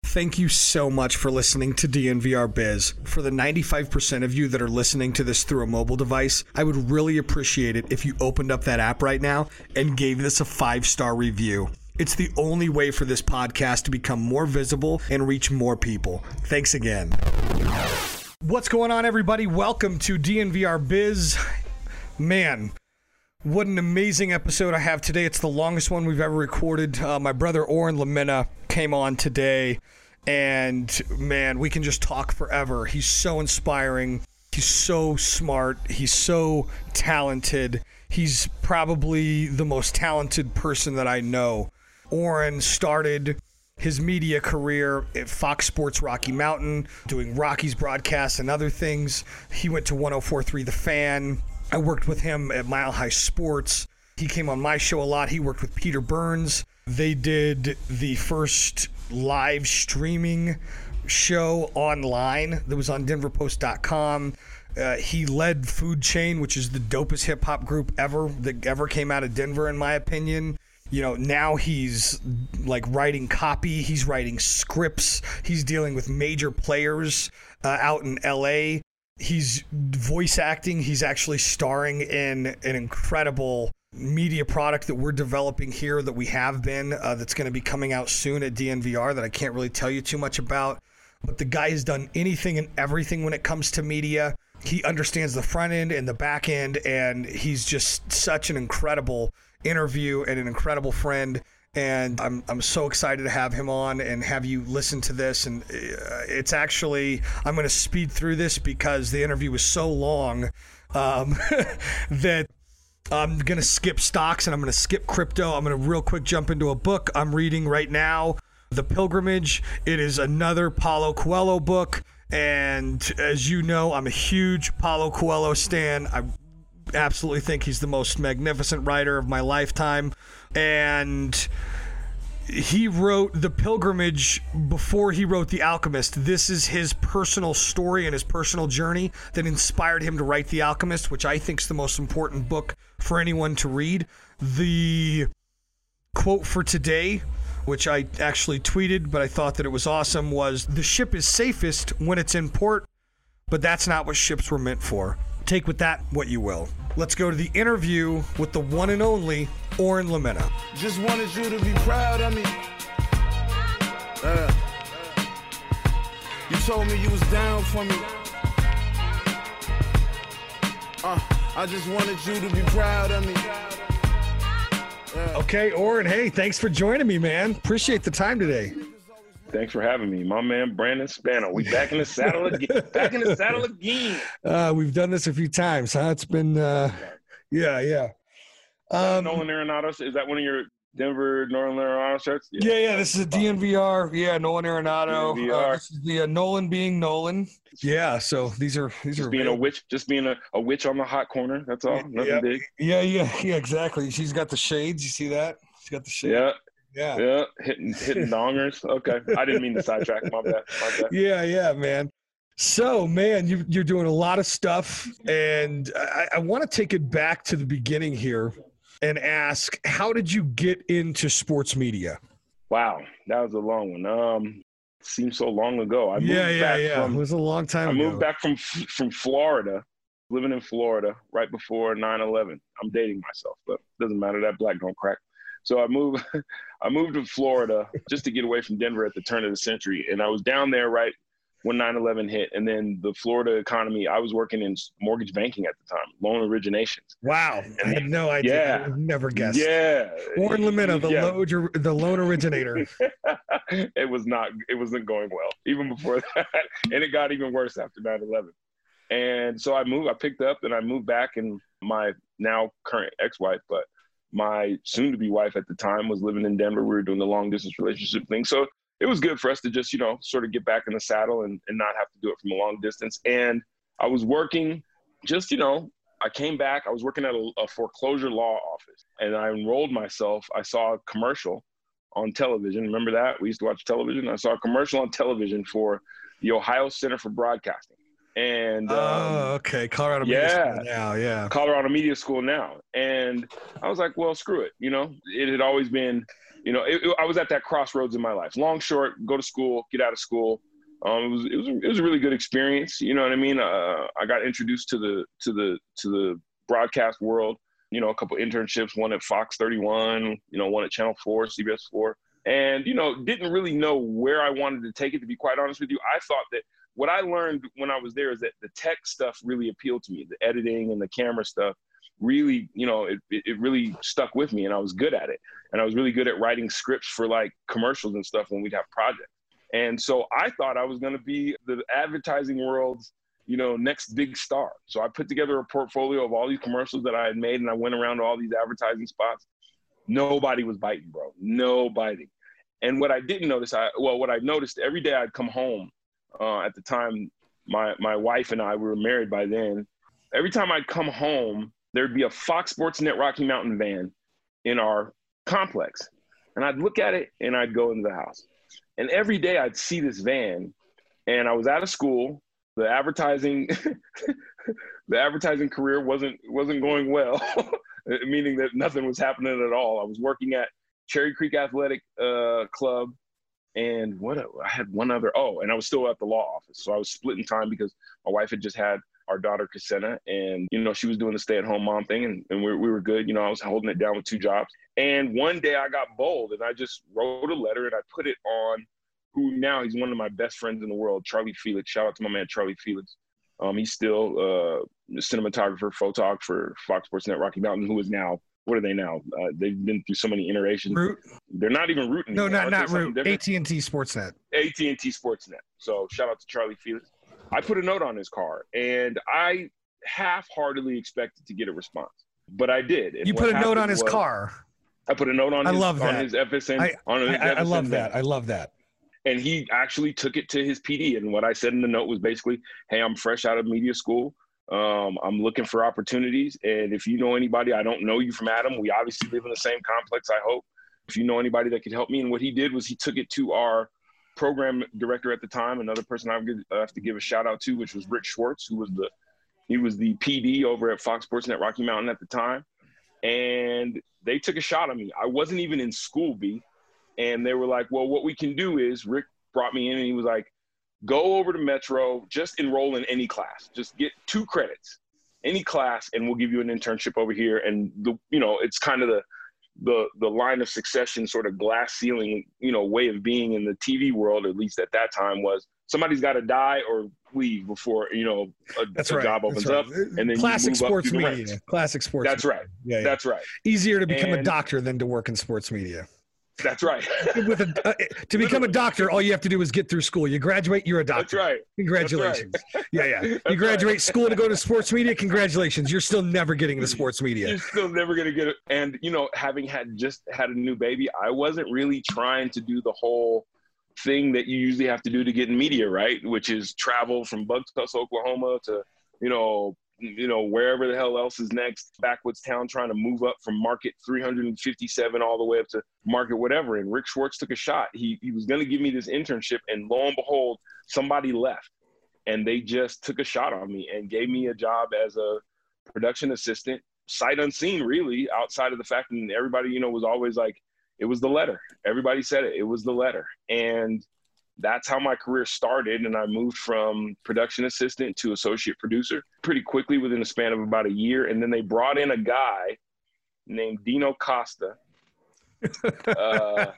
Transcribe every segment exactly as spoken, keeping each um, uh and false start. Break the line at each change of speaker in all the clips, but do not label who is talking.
Thank you so much for listening to D N V R Biz. For the ninety-five percent of you that are listening to this through a mobile device, I would really appreciate it if you opened up that app right now and gave this a five-star review. It's the only way for this podcast to become more visible and reach more people. Thanks again. What's going on, everybody? Welcome to D N V R Biz. Man, what an amazing episode I have today. It's the longest one we've ever recorded. Uh, my brother Oren Lamina came on today, and man, we can just talk forever. He's so inspiring. He's so smart. He's so talented. He's probably the most talented person that I know. Oren started his media career at Fox Sports Rocky Mountain, doing Rockies broadcasts and other things. He went to one oh four point three The Fan. I worked with him at Mile High Sports. He came on my show a lot. He worked with Peter Burns. They did the first live streaming show online that was on denver post dot com. Uh, he led Food Chain, which is the dopest hip-hop group ever that ever came out of Denver, in my opinion. You know, now he's like writing copy. He's writing scripts. He's dealing with major players uh, out in L A. He's voice acting. He's actually starring in an incredible media product that we're developing here, that we have been, uh, that's going to be coming out soon at D N V R, that I can't really tell you too much about. But the guy has done anything and everything when it comes to media. He understands the front end and the back end, and he's just such an incredible interview and an incredible friend. And I'm I'm so excited to have him on and have you listen to this. And it's actually, I'm going to speed through this because the interview was so long um, that I'm going to skip stocks and I'm going to skip crypto. I'm going to real quick jump into a book I'm reading right now, The Pilgrimage. It is another Paulo Coelho book. And as you know, I'm a huge Paulo Coelho stan. I absolutely think he's the most magnificent writer of my lifetime. And he wrote The Pilgrimage before he wrote The Alchemist. This is his personal story and his personal journey that inspired him to write The Alchemist, which I think is the most important book for anyone to read. The quote for today, which I actually tweeted, but I thought that it was awesome, was, "The ship is safest when it's in port, but that's not what ships were meant for." Take with that what you will. Let's go to the interview with the one and only Oren Lamina.
Just wanted you to be proud of me. Uh, you told me you was down for me. Uh, I just wanted you to be proud of me. Uh,
okay, Oren, hey, thanks for joining me, man. Appreciate the time today.
Thanks for having me, my man Brandon Spano. We back in the saddle again. Back in the saddle again.
Uh, we've done this a few times, huh? It's been, uh, yeah, yeah.
Um, Nolan Arenado, is that one of your Denver Nolan Arenado shirts?
Yeah, yeah. yeah this is a D N V R. Yeah, Nolan Arenado. Uh, this is the uh, Nolan being Nolan. Yeah. So these are these
just
are
being real. a witch, just being a, a witch on the hot corner. That's all. Nothing
yeah,
big.
Yeah, yeah, yeah. Exactly. She's got the shades. You see that? She's got the shades.
Yeah.
Yeah.
Yeah. Hitting hitting dongers. Okay. I didn't mean to sidetrack. My bad. My bad.
Yeah, yeah, man. So, man, you, you're doing a lot of stuff, and I, I want to take it back to the beginning here and ask, how did you get into sports media?
Wow, that was a long one. Um, it seems so long ago. I moved
yeah, yeah,
back
yeah.
From,
it was a long time
I
ago.
moved back from from Florida, living in Florida right before nine eleven. I'm dating myself, but it doesn't matter. That black don't crack. So I moved, I moved to Florida just to get away from Denver at the turn of the century, and I was down there right when nine eleven hit. And then the Florida economy, I was working in mortgage banking at the time, loan originations.
Wow. And I had no idea.
Yeah.
I would have never guessed.
Yeah.
Oren Lamina, the,
yeah.
loan, the loan originator.
It was not, it wasn't going well, even before that. And it got even worse after nine eleven. And so I moved, I picked up and I moved back, and my now current ex-wife, but my soon-to-be wife at the time was living in Denver. We were doing the long-distance relationship thing. So it was good for us to just, you know, sort of get back in the saddle and, and not have to do it from a long distance. And I was working just, you know, I came back, I was working at a, a foreclosure law office, and I enrolled myself. I saw a commercial on television. Remember that? We used to watch television. I saw a commercial on television for the Ohio Center for Broadcasting. And
oh,
um,
okay. Colorado
yeah,
Media School now, yeah.
Colorado Media School now. And I was like, well, screw it. You know, it had always been you know, it, it, I was at that crossroads in my life. Long, short, go to school, get out of school. Um, it was it was it was a really good experience. You know what I mean? Uh, I got introduced to the to the to the broadcast world. You know, a couple internships, one at Fox thirty-one, you know, one at Channel four, C B S four, and you know, didn't really know where I wanted to take it. To be quite honest with you, I thought that what I learned when I was there is that the tech stuff really appealed to me, the editing and the camera stuff. Really, you know, it, it really stuck with me, and I was good at it. And I was really good at writing scripts for like commercials and stuff when we'd have projects. And so I thought I was going to be the advertising world's, you know, next big star. So I put together a portfolio of all these commercials that I had made, and I went around to all these advertising spots. Nobody was biting, bro. No biting. And what I didn't notice, I well, what I noticed every day I'd come home. Uh, at the time, my my wife and I, we were married by then. Every time I'd come home, there'd be a Fox Sports Net Rocky Mountain van in our complex. And I'd look at it and I'd go into the house. And every day I'd see this van, and I was out of school. The advertising, the advertising career wasn't wasn't going well, meaning that nothing was happening at all. I was working at Cherry Creek Athletic uh, Club, and what I had one other. Oh, and I was still at the law office, so I was splitting time because my wife had just had our daughter Casenna, and you know she was doing the stay-at-home mom thing, and, and we, we were good. You know, I was holding it down with two jobs. And one day I got bold, and I just wrote a letter, and I put it on who now he's one of my best friends in the world, Charlie Felix. Shout out to my man Charlie Felix. Um, he's still uh, a cinematographer, photographer for Fox Sports Net Rocky Mountain, who is now, what are they now? Uh, they've been through so many iterations.
Root.
They're not even Root anymore.
No, not not Root. A T and T Sportsnet.
A T and T Sportsnet. So shout out to Charlie Felix. I put a note on his car, and I half-heartedly expected to get a response, but I did. And
you put a note on his car.
I put a note on
I
his,
love that.
on his F S N.
I,
on his
I,
F S N
I love
thing.
that. I love that.
And he actually took it to his P D. And what I said in the note was basically, hey, I'm fresh out of media school. Um, I'm looking for opportunities. And if you know anybody, I don't know you from Adam. We obviously live in the same complex, I hope. If you know anybody that could help me. And what he did was he took it to our program director at the time, another person I have to give a shout out to, which was Rick Schwartz, who was the, he was the P D over at Fox Sports Net Rocky Mountain at the time. And they took a shot at me. I wasn't even in school, B. And they were like, well, what we can do is, Rick brought me in and he was like, go over to Metro, just enroll in any class. Just get two credits, any class, and we'll give you an internship over here. And, the you know, it's kind of the, the, the line of succession sort of glass ceiling, you know, way of being in the T V world, at least at that time, was somebody's got to die or leave before, you know, a,
That's
a
right.
job opens
That's right.
up. And then
Classic
you move
sports
up through the
media.
ranks.
Classic sports.
That's right.
Yeah, yeah.
That's right.
Easier to become
and,
a doctor than to work in sports media.
That's right.
With a, uh, to become a doctor, all you have to do is get through school. You graduate, you're a doctor.
That's right.
Congratulations.
That's right.
Yeah, yeah. You
That's
graduate
right.
school to go to sports media. Congratulations. You're still never getting into sports media.
You're still never going to get it. And, you know, having had just had a new baby, I wasn't really trying to do the whole thing that you usually have to do to get in media, right? Which is travel from Bucktuss, Oklahoma to, you know, you know, wherever the hell else is next, backwoods town, trying to move up from market three hundred fifty-seven all the way up to market whatever. And Rick Schwartz took a shot. He he was going to give me this internship, and lo and behold, somebody left. And they just took a shot on me and gave me a job as a production assistant, sight unseen, really, outside of the fact that everybody, you know, was always like, it was the letter. Everybody said it. It was the letter. And that's how my career started. And I moved from production assistant to associate producer pretty quickly within a span of about a year. And then they brought in a guy named Dino Costa. uh,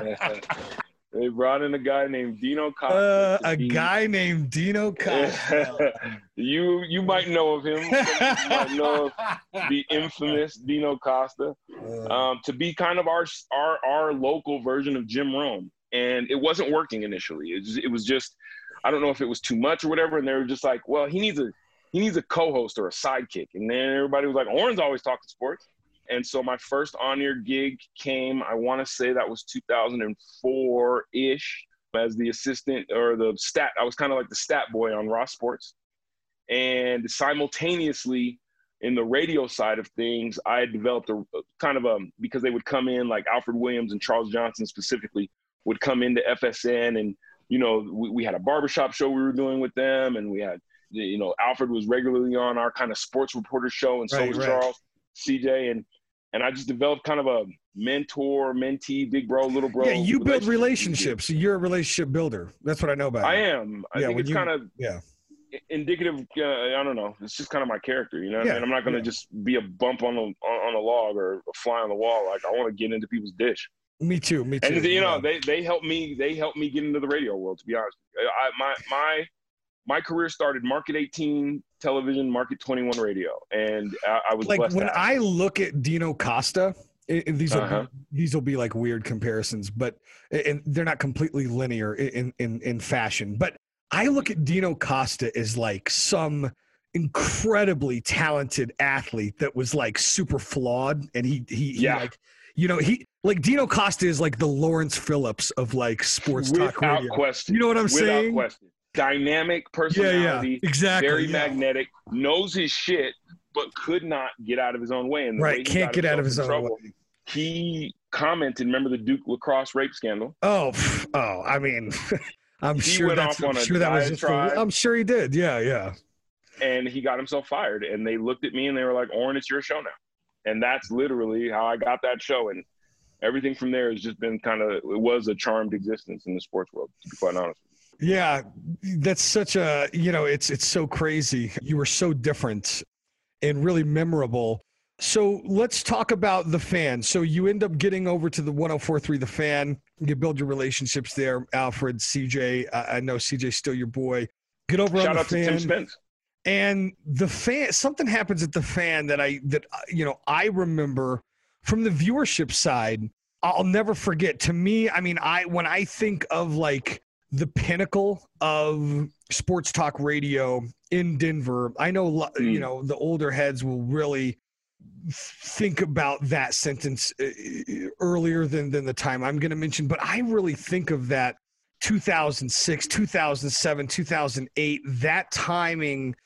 they brought in a guy named Dino Costa.
Uh, a
be,
guy named Dino Costa.
you you might know of him. You might know of the infamous Dino Costa. Um, to be kind of our our our local version of Jim Rome. And it wasn't working initially. It, just, it was just, I don't know if it was too much or whatever. And they were just like, well, he needs a he needs a co-host or a sidekick. And then everybody was like, Oren's always talking sports. And so my first on-air gig came, I want to say that was two thousand four-ish, as the assistant or the stat. I was kind of like the stat boy on Raw Sports. And simultaneously, in the radio side of things, I had developed a kind of a, because they would come in, like Alfred Williams and Charles Johnson specifically, would come into F S N, and, you know, we, we had a barbershop show we were doing with them, and we had, you know, Alfred was regularly on our kind of sports reporter show, and so
right,
was
right.
Charles, C J, and And I just developed kind of a mentor, mentee, big bro, little bro.
Yeah, you build
relationship.
relationships. You're a relationship builder. That's what I know about
I
you.
am. I
Yeah,
think
when
it's
you-
kind of
Yeah.
indicative. Uh, I don't know. It's just kind of my character, you know. What
Yeah,
I mean, I'm not going to
yeah.
just be a bump on a on, on a log or a fly on the wall. Like I want to get into people's dish.
Me too. Me too.
And you know,
yeah.
they they helped me. They helped me get into the radio world. To be honest, I, my my my career started Market eighteen television, Market twenty-one radio, and I, I was
like
blessed.
when
to have
I look at Dino Costa, it, it- these will
Uh-huh.
be, these will be like weird comparisons, but and they're not completely linear in in in fashion. But I look at Dino Costa as like some incredibly talented athlete that was like super flawed, and he he, he
Yeah.
like you know he like Dino Costa is like the Lawrence Phillips of like sports talk
without
radio.
question.
You know what I'm
without
saying?
question. Dynamic
Yeah,
personality.
yeah, exactly.
Very
yeah.
magnetic. Knows his shit, but could not get out of his own way. And the
Right,
way he
can't
got
get out of
himself
his
in
own
trouble, He commented. Remember the Duke lacrosse rape scandal?
Oh, pff, oh, I mean, I'm
He
sure
went
that's.
off
I'm
on a
sure that was just. A,
diatribe.
I'm sure he did. Yeah, yeah.
And he got himself fired. And they looked at me and they were like, "Oren, it's your show now." And that's literally how I got that show. And everything from there has just been kind of. It was a charmed existence in the sports world, to be quite honest.
Yeah, that's such a. You know, it's it's so crazy. You were so different, and really memorable. So let's talk about The Fan. So you end up getting over to the one oh four point three The Fan. You build your relationships there. Alfred, C J. I, I know C J's still your boy. Get over
Shout
on The
out
Fan.
to Tim Spence.
And The Fan, something happens at The Fan that I that uh, you know I remember from the viewership side. I'll never forget. To me, I mean, I when I think of like the pinnacle of sports talk radio in Denver, I know lo-
Mm.
you know the older heads will really think about that sentence uh, earlier than than the time I'm going to mention, but I really think of that two thousand six, two thousand seven, two thousand eight. That timing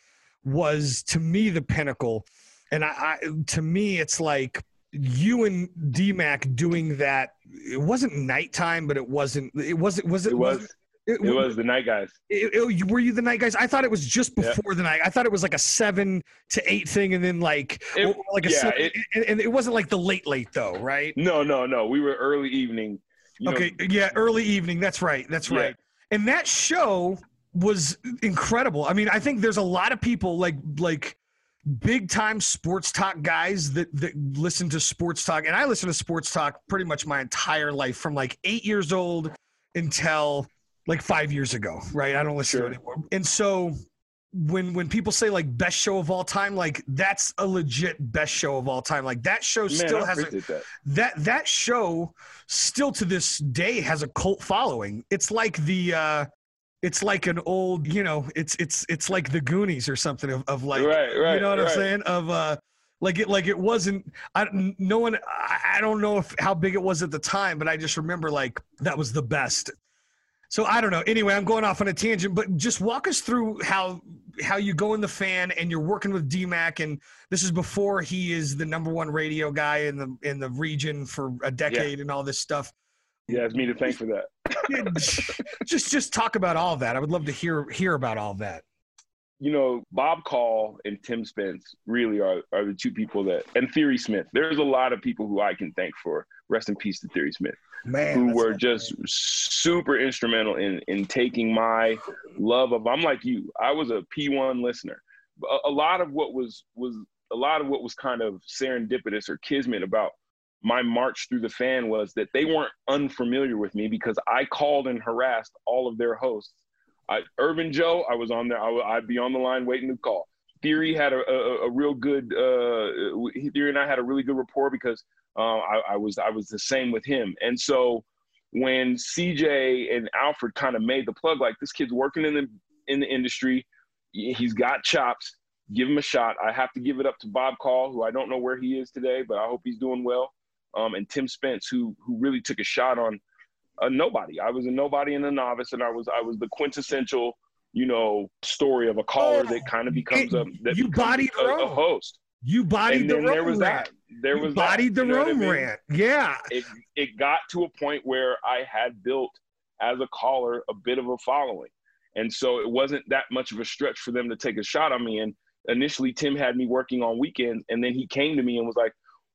was to me the pinnacle, and I, I to me it's like you and D-Mac doing that. It wasn't nighttime, but it wasn't. It wasn't. Was it?
It was.
It,
It was the night guys.
it- it- were you the night guys? I thought it was just
Yeah.
before the night. I thought it was like a seven to eight thing, and then like
It-
or like a
yeah,
seven,
it-
and, and it wasn't like the late late though, right?
No, no, no. We were early evening. You know,
Okay, yeah, early evening. That's right. That's
Yeah.
right. And that show was incredible. I mean, I think there's a lot of people like like big time sports talk guys that that listen to sports talk, and I listen to sports talk pretty much my entire life from like eight years old until like five years ago, right? I don't listen
Sure.
to it anymore. And so when when people say like best show of all time, like that's a legit best show of all time. Like that show
man,
still
I
has a,
appreciate that.
that that show still to this day has a cult following. It's like the uh it's like an old, you know, it's it's it's like the Goonies or something of, of like
Right, right,
you know what
right.
I'm saying? Of uh like it like it wasn't I no one I, I don't know if how big it was at the time, but I just remember like that was the best. So I don't know. Anyway, I'm going off on a tangent, but just walk us through how how you go in The Fan and you're working with D-Mac, and this is before he is the number one radio guy in the in the region for a decade and all this stuff.
Yeah, it's me to thank for that.
Yeah, just just talk about all of that. I would love to hear hear about all of that.
You know, Bob Call and Tim Spence really are, are the two people that, and Theory Smith. There's a lot of people who I can thank for. Rest in peace to Theory Smith,
Man,
who
that's
were
not
just
bad.
super instrumental in in taking my love of. I'm like you. I was a P one listener. A, a lot of what was was a lot of what was kind of serendipitous or kismet about my march through The Fan was that they weren't unfamiliar with me because I called and harassed all of their hosts. I, Urban Joe, I was on there. I would, I'd be on the line waiting to call. Theory had a, a, a real good. Uh, Theory and I had a really good rapport because uh, I, I was I was the same with him. And so when C J and Alfred kind of made the plug, like this kid's working in the in the industry, he's got chops. Give him a shot. I have to give it up to Bob Call, who I don't know where he is today, but I hope he's doing well. Um, and Tim Spence, who who really took a shot on a nobody. I was a nobody and a novice, and I was I was the quintessential, you know, story of a caller
Oh,
that kind of becomes a that
you
becomes
bodied
a,
the
a
Rome.
host.
You bodied
And
the
then
Rome
there was
rant.
that. There
you
was
bodied
that.
the
You know what I
Rome
mean?
rant. Yeah.
It it got to a point where I had built as a caller a bit of a following, and so it wasn't that much of a stretch for them to take a shot on me. And initially, Tim had me working on weekends, and then he came to me and was like,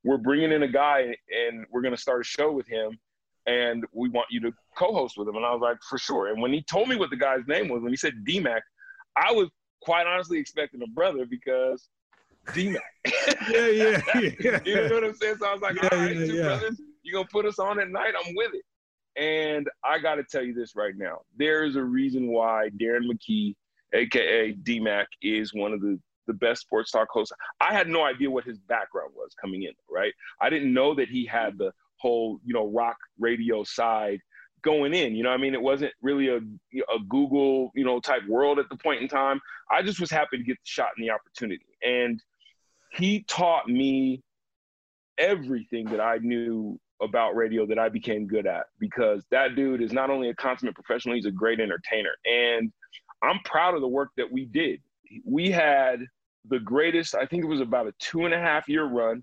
we're bringing in a guy and we're going to start a show with him. And we want you to co-host with him. And I was like, for sure. And when he told me what the guy's name was, when he said D-Mac, I was quite honestly expecting a brother because D-Mac.
yeah, yeah, yeah.
You know what I'm saying? So I was like,
yeah,
all right,
yeah,
two
yeah.
brothers, you going to put us on at night? I'm with it. And I got to tell you this right now. There is a reason why Darren McKee, a k a. D-Mac, is one of the, the best sports talk hosts. I had no idea what his background was coming in, right? I didn't know that he had the whole, you know, rock radio side going in, you know what I mean? It wasn't really a, a Google, you know, type world at the point in time. I just was happy to get the shot and the opportunity. And he taught me everything that I knew about radio that I became good at, because that dude is not only a consummate professional, he's a great entertainer. And I'm proud of the work that we did. We had the greatest, I think it was about a two and a half year run.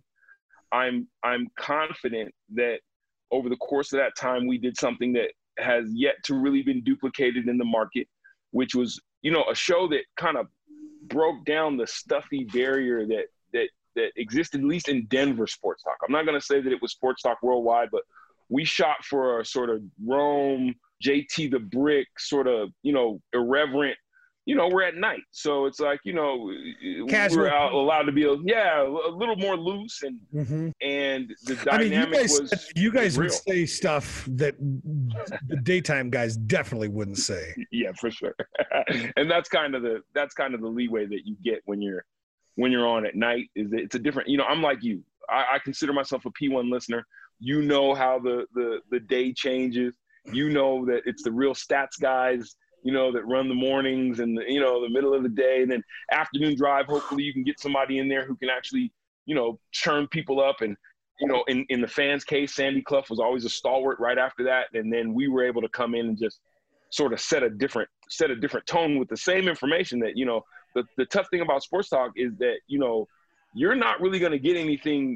I'm I'm confident that over the course of that time, we did something that has yet to really been duplicated in the market, which was, you know, a show that kind of broke down the stuffy barrier that that that existed, at least in Denver sports talk. I'm not going to say that it was sports talk worldwide, but we shot for a sort of Rome, J T the Brick, sort of, you know, irreverent. You know, we're at night. So it's like, you know,
Casual.
we're out, allowed to be, a, yeah, a little more loose. And
mm-hmm.
and the dynamic
I mean, you guys,
was
You guys
was
would say stuff that the daytime guys definitely wouldn't say.
Yeah, for sure. And that's kind of the that's kind of the leeway that you get when you're when you're on at night. Is that it's a different, you know, I'm like you. I, I consider myself a P one listener. You know how the the the day changes. You know that it's the real stats guys, you know, that run the mornings and, the, you know, the middle of the day. And then afternoon drive, hopefully you can get somebody in there who can actually, you know, churn people up. And, you know, in, in the fans' case, Sandy Clough was always a stalwart right after that. And then we were able to come in and just sort of set a different set a different tone with the same information that, you know, the, the tough thing about sports talk is that, you know, you're not really going to get anything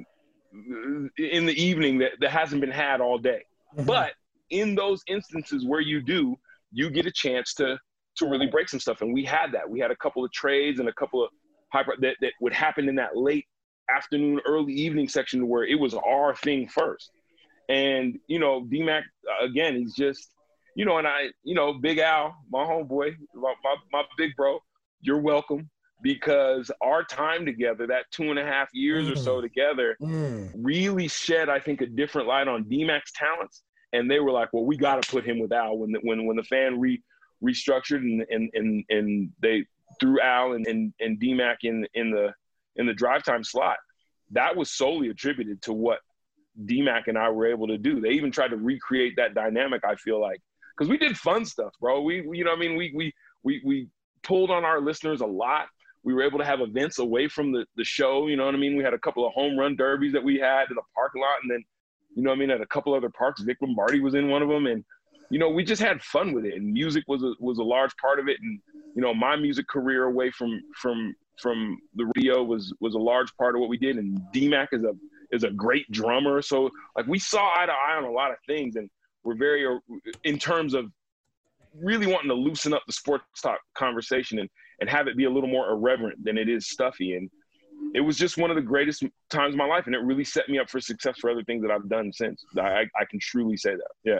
in the evening that, that hasn't been had all day. Mm-hmm. But in those instances where you do, you get a chance to to really break some stuff. And we had that. We had a couple of trades and a couple of hyper that, that would happen in that late afternoon, early evening section where it was our thing first. And, you know, D-Mac, again, he's just, you know, and I, you know, Big Al, my homeboy, my, my, my big bro, you're welcome, because our time together, that two and a half years mm. or so together, mm. really shed, I think, a different light on D-Mac's talents. And they were like, well, we got to put him with Al. When the, when when the fan re, restructured and, and and and they threw Al and, and, and D-Mac in in the in the drive time slot, that was solely attributed to what D-Mac and I were able to do. They even tried to recreate that dynamic, I feel like, because we did fun stuff, bro. We, we you know what I mean? We we we we pulled on our listeners a lot. We were able to have events away from the, the show, you know what I mean? We had a couple of home run derbies that we had in the parking lot, and then, you know what I mean, at a couple other parks. Vic Lombardi was in one of them. And, you know, we just had fun with it. And music was a, was a large part of it. And, you know, my music career away from from from the radio was was a large part of what we did. And D-Mac is a is a great drummer. So, like, we saw eye to eye on a lot of things. And we're very, in terms of really wanting to loosen up the sports talk conversation and, and have it be a little more irreverent than it is stuffy. And it was just one of the greatest times of my life, and it really set me up for success for other things that I've done since. I, I can truly say that. Yeah.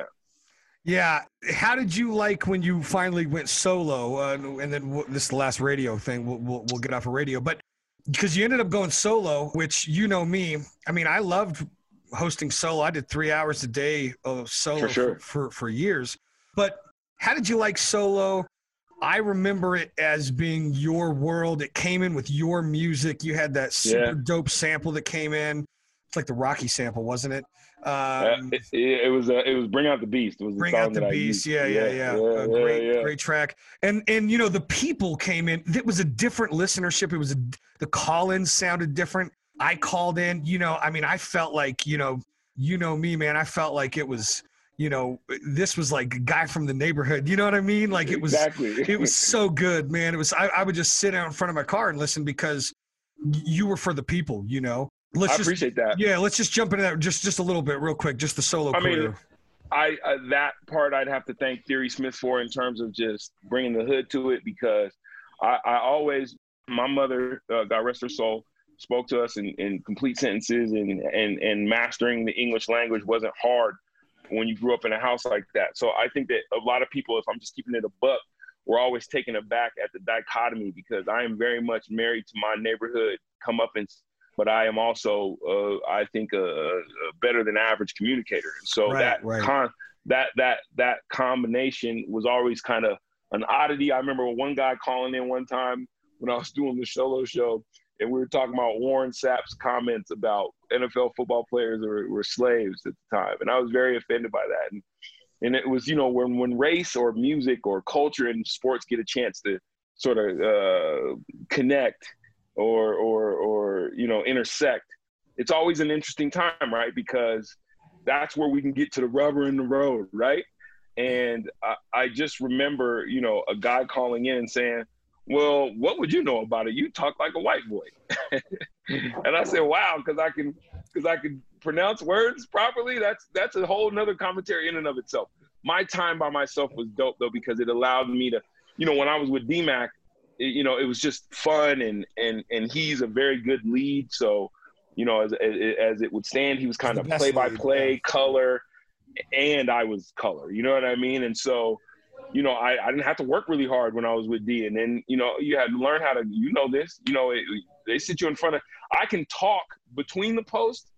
Yeah. How did you like when you finally went solo? Uh, and then we'll, this is the last radio thing. We'll, we'll, we'll get off of radio. But because you ended up going solo, which, you know me, I mean, I loved hosting solo. I did three hours a day of solo
for, sure.
for, for, for years. But how did you like solo? I remember it as being your world. It came in with your music. You had that super
yeah.
dope sample that came in. It's like the Rocky sample, wasn't it? Um,
uh, it, it was uh, it was Bring Out the Beast. It was the
Bring
song
Out the
that
Beast.
I
yeah, yeah, yeah.
yeah, yeah,
a great,
yeah, yeah.
great track. And and you know the people came in. It was a different listenership. It was a, the call-ins sounded different. I called in. You know, I mean, I felt like you know, you know me, man. I felt like it was. You know, this was like a guy from the neighborhood. You know what I mean? Like it was,
exactly.
It was so good, man. It was, I, I would just sit out in front of my car and listen because you were for the people, you know? Let's
I
just,
appreciate that.
Yeah. Let's just jump into that just, just a little bit real quick. Just the solo
I
career.
mean, I, uh, that part I'd have to thank Theory Smith for in terms of just bringing the hood to it, because I, I always, my mother, uh, God rest her soul, spoke to us in, in complete sentences, and, and, and mastering the English language wasn't hard when you grew up in a house like that. So I think that a lot of people, if I'm just keeping it a buck, we're always taken aback at the dichotomy, because I am very much married to my neighborhood comeuppance, but I am also, uh, I think, a, a better than average communicator. And so
right,
that,
right.
Con- that that that combination was always kind of an oddity. I remember one guy calling in one time when I was doing the solo show, and we were talking about Warren Sapp's comments about N F L football players were, were slaves at the time, and I was very offended by that. And And it was, you know, when, when race or music or culture and sports get a chance to sort of uh, connect or, or, or, you know, intersect, it's always an interesting time, right? Because that's where we can get to the rubber in the road, right? And I, I just remember, you know, a guy calling in and saying, well, what would you know about it? You talk like a white boy. And I said, wow, because I can because I can pronounce words properly. That's that's a whole nother commentary in and of itself. My time by myself was dope, though, because it allowed me to, you know, when I was with D-Mac, it, you know, it was just fun, and and and he's a very good lead. So, you know, as as it would stand, he was kind of play-by-play, yeah. color, and I was color. You know what I mean? And so, you know, I, I didn't have to work really hard when I was with D. And then, you know, you had to learn how to, you know, this, you know, it, they sit you in front of, I can talk between the posts.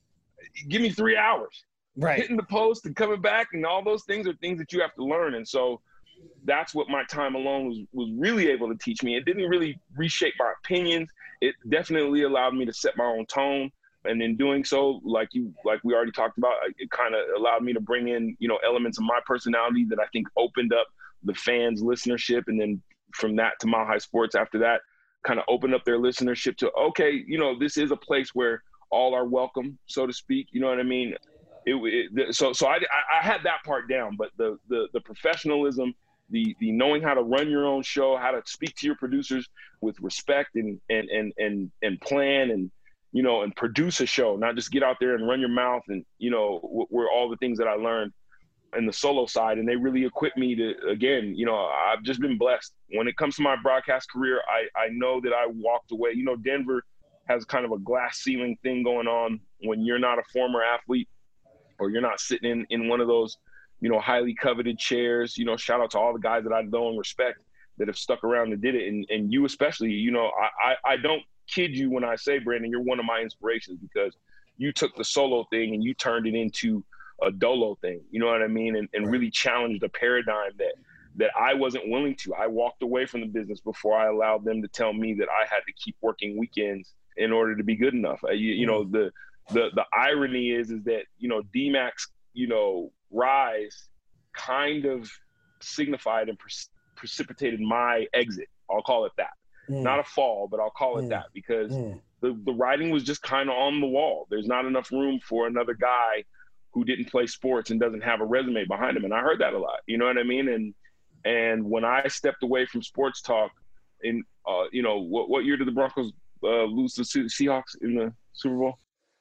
Give me three hours.
Right.
Hitting the post and coming back, and all those things are things that you have to learn. And so that's what my time alone was, was really able to teach me. It didn't really reshape my opinions. It definitely allowed me to set my own tone. And in doing so, like you, like we already talked about, it kind of allowed me to bring in, you know, elements of my personality that I think opened up the fans' listenership. And then from that to Mile High Sports after that, kind of opened up their listenership to, okay, you know, this is a place where all are welcome, so to speak. You know what I mean? It, it, so so I, I had that part down, but the the the professionalism, the the knowing how to run your own show, how to speak to your producers with respect and and and and, and plan and, you know, and produce a show, not just get out there and run your mouth, and, you know, were all the things that I learned in the solo side. And they really equipped me to, again, you know, I've just been blessed. When it comes to my broadcast career, I, I know that I walked away. You know, Denver has kind of a glass ceiling thing going on when you're not a former athlete, or you're not sitting in, in one of those, you know, highly coveted chairs. You know, shout out to all the guys that I know and respect that have stuck around and did it. And, and you especially, you know, I, I, I don't kid you when I say, Brandon, you're one of my inspirations, because you took the solo thing and you turned it into a dolo thing. You know what I mean? And, and really challenged a paradigm that that I wasn't willing to. I walked away from the business before I allowed them to tell me that I had to keep working weekends in order to be good enough. You, you know, the the the irony is is that, you know, D-Mac's, you know, rise kind of signified and pre- precipitated my exit. I'll call it that. Mm. Not a fall, but I'll call it mm. that, because mm. the, the writing was just kind of on the wall. There's not enough room for another guy who didn't play sports and doesn't have a resume behind him. And I heard that a lot, you know what I mean? And and when I stepped away from sports talk in, uh, you know, what, what year did the Broncos uh, lose to the Seahawks in the Super Bowl?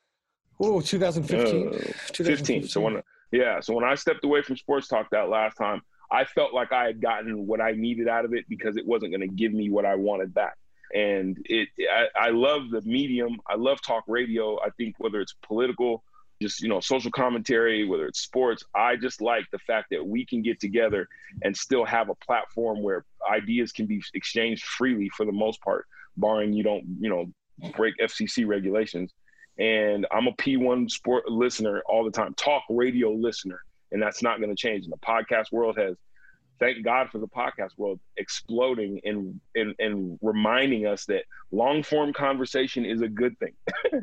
Oh, twenty fifteen.
Uh, fifteen. So when, yeah. So when I stepped away from sports talk that last time, I felt like I had gotten what I needed out of it, because it wasn't going to give me what I wanted back. And it, I, I love the medium. I love talk radio. I think whether it's political, just, you know, social commentary, whether it's sports, I just like the fact that we can get together and still have a platform where ideas can be exchanged freely for the most part, barring you don't, you know, break F C C regulations. And I'm a P one sport listener all the time, talk radio listener, and that's not going to change. And the podcast world has, thank God for the podcast world exploding and and, and reminding us that long form conversation is a good thing.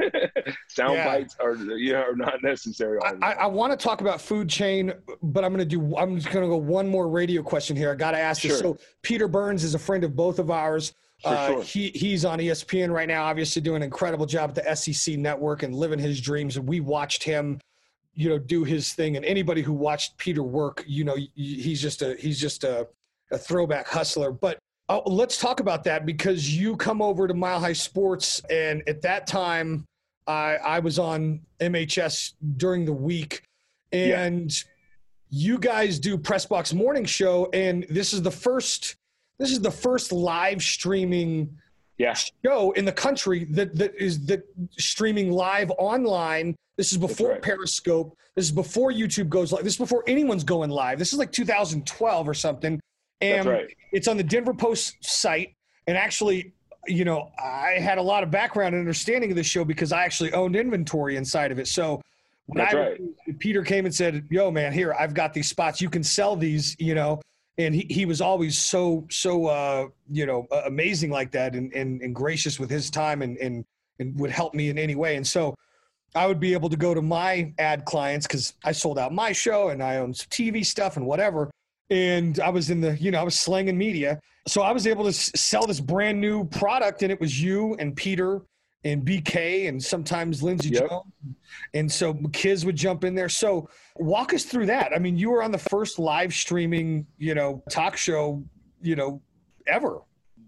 Sound yeah. bites are yeah are not necessary. All
I, I want to talk about food chain, but I'm going to do. I'm just going to go one more radio question here. I got to ask
sure.
this. So Peter Burns is a friend of both of ours. Uh,
sure.
he he's on E S P N right now, obviously doing an incredible job at the S E C network and living his dreams. And we watched him, you know, do his thing. And anybody who watched Peter work, you know, he's just a he's just a, a throwback hustler. But uh, let's talk about that, because you come over to Mile High Sports, and at that time, I I was on M H S during the week, and yeah. you guys do Press Box Morning Show, and this is the first. This is the first live streaming
yeah.
show in the country that that is that streaming live online. This is before
right.
Periscope. This is before YouTube goes live. This is before anyone's going live. This is like two thousand twelve or something. And
That's right.
It's on the Denver Post site. And actually, you know, I had a lot of background and understanding of this show because I actually owned inventory inside of it. So when
That's
I,
right.
Peter came and said, yo, man, here, I've got these spots. You can sell these, you know. And he, he was always so, so uh, you know, uh, amazing like that and, and, and gracious with his time and, and, and would help me in any way. And so I would be able to go to my ad clients because I sold out my show and I owned some T V stuff and whatever. And I was in the, you know, I was slanging media. So I was able to s- sell this brand new product, and it was you and Peter and B K and sometimes Lindsey
Yep.
Jones. And so Kiz would jump in there. So walk us through that. I mean, you were on the first live streaming, you know, talk show, you know, ever.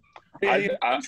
I, I,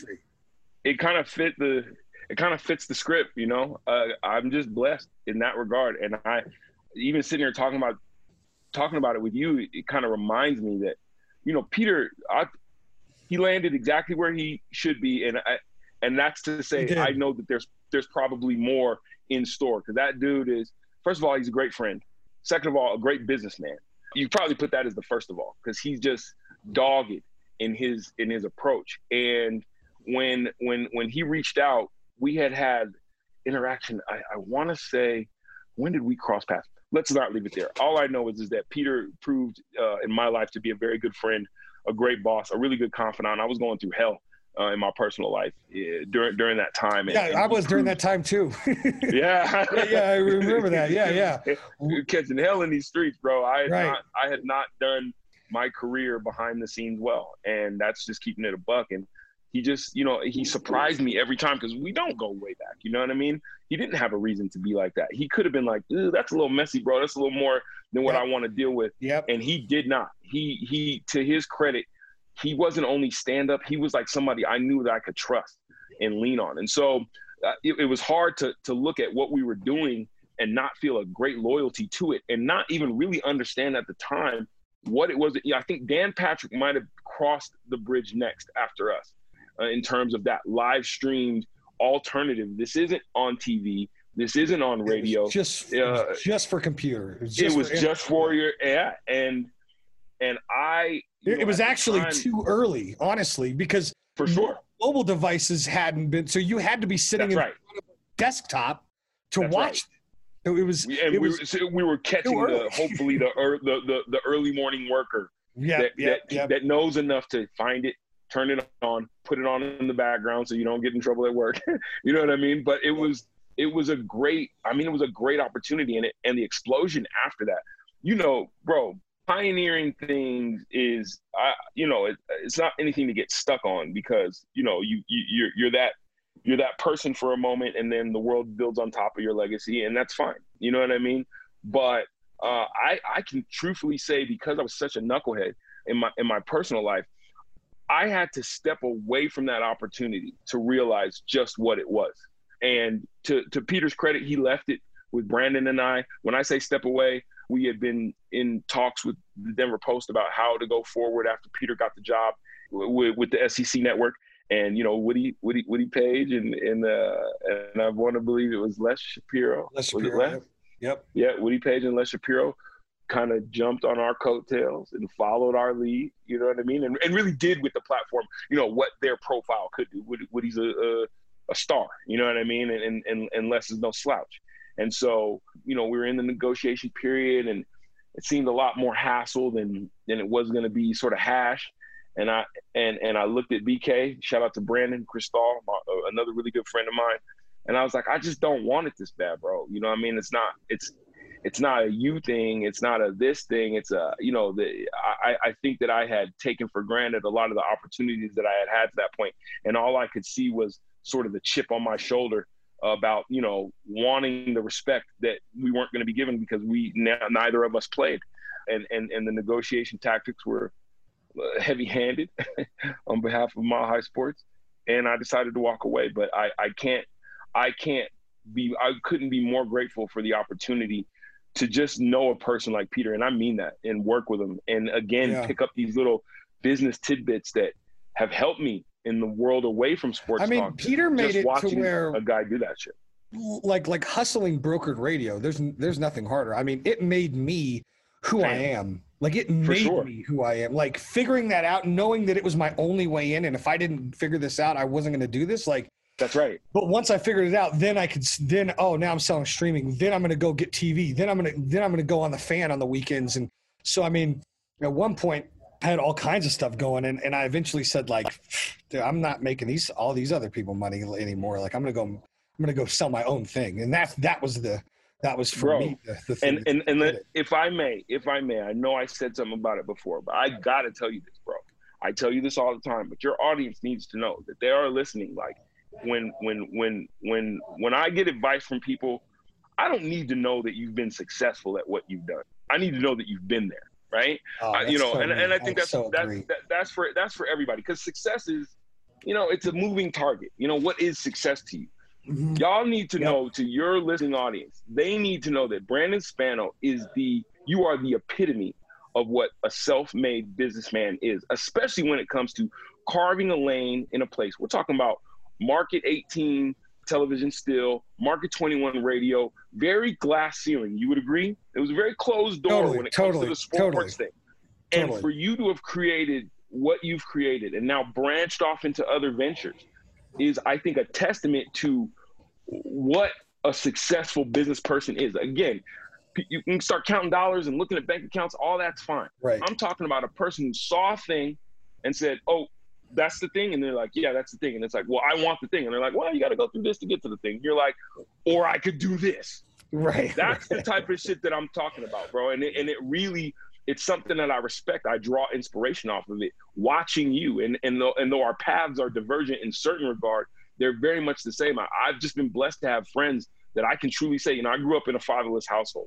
it kind of fit the, it kind of fits the script, you know. Uh, I'm just blessed in that regard, and I, even sitting here talking about, talking about it with you, it kind of reminds me that, you know, Peter, I, he landed exactly where he should be, and I, and that's to say, I know that there's there's probably more in store because that dude is, first of all, he's a great friend. Second of all, a great businessman. You probably put that as the first of all because he's just dogged in his in his approach. And when when when he reached out, we had had interaction. I, I want to say, when did we cross paths? Let's not leave it there. All I know is is that Peter proved uh, in my life to be a very good friend, a great boss, a really good confidant. I was going through hell uh, in my personal life uh, during during that time. And,
yeah,
and
I was
proved,
during that time too.
yeah.
yeah, yeah, I remember that. Yeah, yeah.
Catching hell in these streets, bro. I had
Right.
not I had not done my career behind the scenes well, and that's just keeping it a buck. And he just, you know, he surprised me every time because we don't go way back. You know what I mean? He didn't have a reason to be like that. He could have been like, that's a little messy, bro. That's a little more than what
Yep.
I want to deal with.
Yep.
And he did not. He, he, to his credit, he wasn't only stand up. He was like somebody I knew that I could trust and lean on. And so uh, it, it was hard to to look at what we were doing and not feel a great loyalty to it and not even really understand at the time what it was. Yeah, I think Dan Patrick might have crossed the bridge next after us. Uh, in terms of that live streamed alternative. This isn't on T V. This isn't on radio.
Just,
uh,
just for computer. It was
it
just
was
for,
just for your, yeah. And, and I, you
it,
know,
it was
at the
actually
time,
too early, honestly, because
for sure.
mobile devices hadn't been, so you had to be sitting
That's
in
right.
front of a desktop to
That's
watch.
right.
It was,
And
it
we,
was
were, so we were catching
too
the,
early.
hopefully the, er, the, the, the early morning worker
yeah,
that,
yeah,
that,
yeah.
that knows enough to find it, turn it on, put it on in the background so you don't get in trouble at work. You know what I mean? But it was, it was a great, I mean, it was a great opportunity, and it, and the explosion after that, you know, bro, pioneering things is, I, you know, it, it's not anything to get stuck on because, you know, you, you you're, you're that, you're that person for a moment, and then the world builds on top of your legacy, and that's fine. You know what I mean? But uh, I, I can truthfully say, because I was such a knucklehead in my, in my personal life, I had to step away from that opportunity to realize just what it was. And to, to Peter's credit, he left it with Brandon and I. When I say step away, we had been in talks with the Denver Post about how to go forward after Peter got the job with, with the S E C network. And, you know, Woody, Woody, Woody Page and, and, uh, and I want to believe it was Les Shapiro.
Les
Was it
Shapiro,
Les?
yep. Yep.
Yeah, Woody Page and Les Shapiro kind of jumped on our coattails and followed our lead, you know what I mean? And, and really did with the platform, you know, what their profile could do. Woody, Woody's a, a, a star, you know what I mean? And, and, and Les is no slouch. And so, you know, we were in the negotiation period, and it seemed a lot more hassle than, than it was going to be sort of hash. And I, and, and I looked at B K, shout out to Brandon Cristal, another really good friend of mine. And I was like, I just don't want it this bad, bro. You know what I mean? It's not, it's, it's not a you thing. It's not a this thing. It's a, you know, the, I, I think that I had taken for granted a lot of the opportunities that I had had to that point. And all I could see was sort of the chip on my shoulder about, you know, wanting the respect that we weren't going to be given because we, neither of us played. And, and, and the negotiation tactics were heavy handed on behalf of Mile High Sports. And I decided to walk away, but I, I can't, I can't be, I couldn't be more grateful for the opportunity to just know a person like Peter, and I mean that, and work with him. And again,
yeah.
pick up these little business tidbits that have helped me in the world away from sports
I mean,
talk.
Peter made
just
it to
watching
where
a guy do that shit.
like like hustling brokered radio. There's there's nothing harder. I mean, it made me who I am. Like it made
sure.
me who I am. Like figuring that out, knowing that it was my only way in, and if I didn't figure this out, I wasn't going to do this. Like
that's right.
But once I figured it out, then I could. Then oh, now I'm selling streaming. Then I'm going to go get T V. Then I'm going to then I'm going to go on the fan on the weekends. And so I mean, at one point, I had all kinds of stuff going, and and I eventually said like, dude, I'm not making these all these other people money anymore. Like I'm going to go. I'm going to go sell my own thing. And that that was the. That was for
Bro,
me. The, the thing
and and, and the, if I may, if I may, I know I said something about it before, but I got to tell you this, bro. I tell you this all the time, but your audience needs to know that they are listening. Like when, when, when, when, when I get advice from people, I don't need to know that you've been successful at what you've done. I need to know that you've been there. Right.
Oh,
uh, you know,
so
and, and I think
I
that's,
so
that's, that, that's for, that's for everybody. Cause success is, you know, it's a moving target. You know, what is success to you? Mm-hmm. Y'all need to yep. know, to your listening audience, they need to know that Brandon Spano is the, you are the epitome of what a self-made businessman is, especially when it comes to carving a lane in a place. We're talking about Market eighteen television still, Market twenty-one radio, very glass ceiling. You would agree? It was a very closed door
totally,
when it
totally,
comes to the sports
totally,
thing.
Totally.
And for you to have created what you've created and now branched off into other ventures is, I think, a testament to what a successful business person is. Again, you can start counting dollars and looking at bank accounts, all that's fine.
Right.
I'm talking about a person who saw a thing and said, oh, that's the thing. And they're like, yeah, that's the thing. And it's like, well, I want the thing. And they're like, well, you got to go through this to get to the thing. You're like, or I could do this.
Right.
That's
right.
the type of shit that I'm talking about, bro. And it, and it really, it's something that I respect. I draw inspiration off of it, watching you. And, and, though, and though our paths are divergent in certain regard, they're very much the same. I, I've just been blessed to have friends that I can truly say, you know, I grew up in a fatherless household.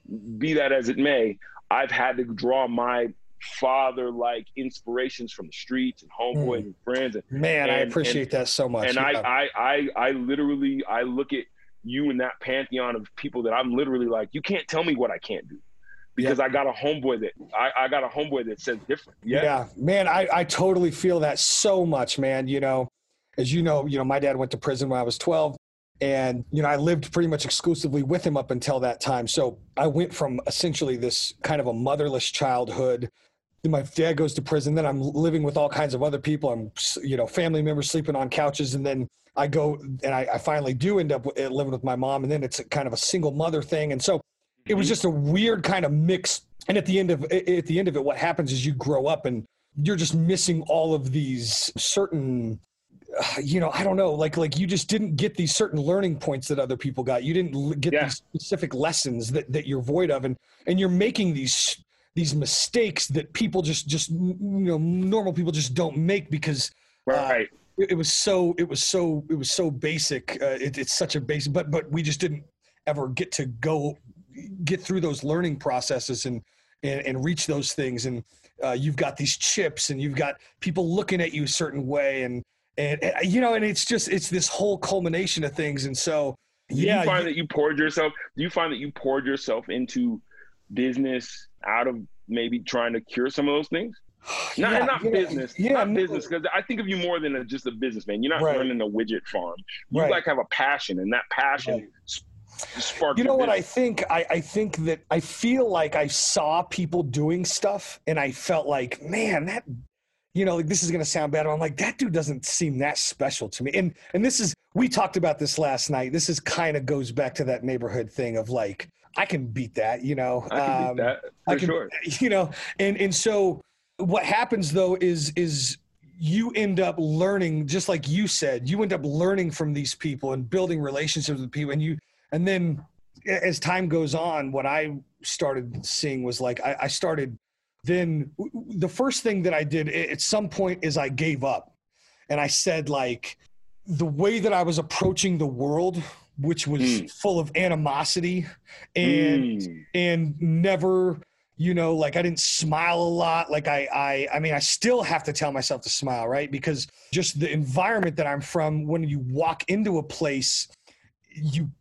Be that as it may, I've had to draw my father-like inspirations from the streets and homeboys mm. and friends. And,
Man,
and,
I appreciate
and,
that so much.
And yeah. I, I, I, I literally, I look at you in that pantheon of people that I'm literally like, you can't tell me what I can't do. Because yep. I got a homeboy that I, I got a homeboy that says different. Yeah,
yeah, man, I, I totally feel that so much, man. You know, as you know, you know, my dad went to prison when I was twelve, and you know, I lived pretty much exclusively with him up until that time. So I went from essentially this kind of a motherless childhood. Then my dad goes to prison. Then I'm living with all kinds of other people. I'm, you know, family members sleeping on couches, and then I go and I, I finally do end up living with my mom, and then it's a kind of a single mother thing, and so. It was just a weird kind of mix. And at the end of at the end of it, what happens is you grow up and you're just missing all of these certain, uh, you know, I don't know, like like you just didn't get these certain learning points that other people got. You didn't get yeah. these specific lessons that, that you're void of, and and you're making these these mistakes that people just just you know normal people just don't make because
right.
Uh, it, it was so it was so it was so basic. Uh, it, it's such a basic, but but we just didn't ever get to go. get through those learning processes and, and, and reach those things. And uh, you've got these chips and you've got people looking at you a certain way. And, and, and, you know, and it's just, it's this whole culmination of things. And so,
do
yeah.
you find you, that you poured yourself, do you find that you poured yourself into business out of maybe trying to cure some of those things? Not,
yeah,
not
yeah,
business,
yeah,
not
no.
business. Cause I think of you more than a, just a businessman. You're not
right.
running a widget farm. You
right.
like have a passion, and that passion right. sparked
you know what
business.
I think I, I think that I feel like I saw people doing stuff and I felt like, man, that, you know, like this is going to sound bad. I'm like, that dude doesn't seem that special to me. And, and this is, we talked about this last night. This is kind of goes back to that neighborhood thing of like, I can beat that, you know,
I can
um,
beat that for
I can,
sure.
You know, and, and so what happens though is, is you end up learning, just like you said, you end up learning from these people and building relationships with people. And you, And then as time goes on, what I started seeing was like, I, I started then the first thing that I did at some point is I gave up and I said like the way that I was approaching the world, which was mm. full of animosity and, mm. and never, you know, like I didn't smile a lot. Like I, I, I mean, I still have to tell myself to smile, right? Because just the environment that I'm from, when you walk into a place, you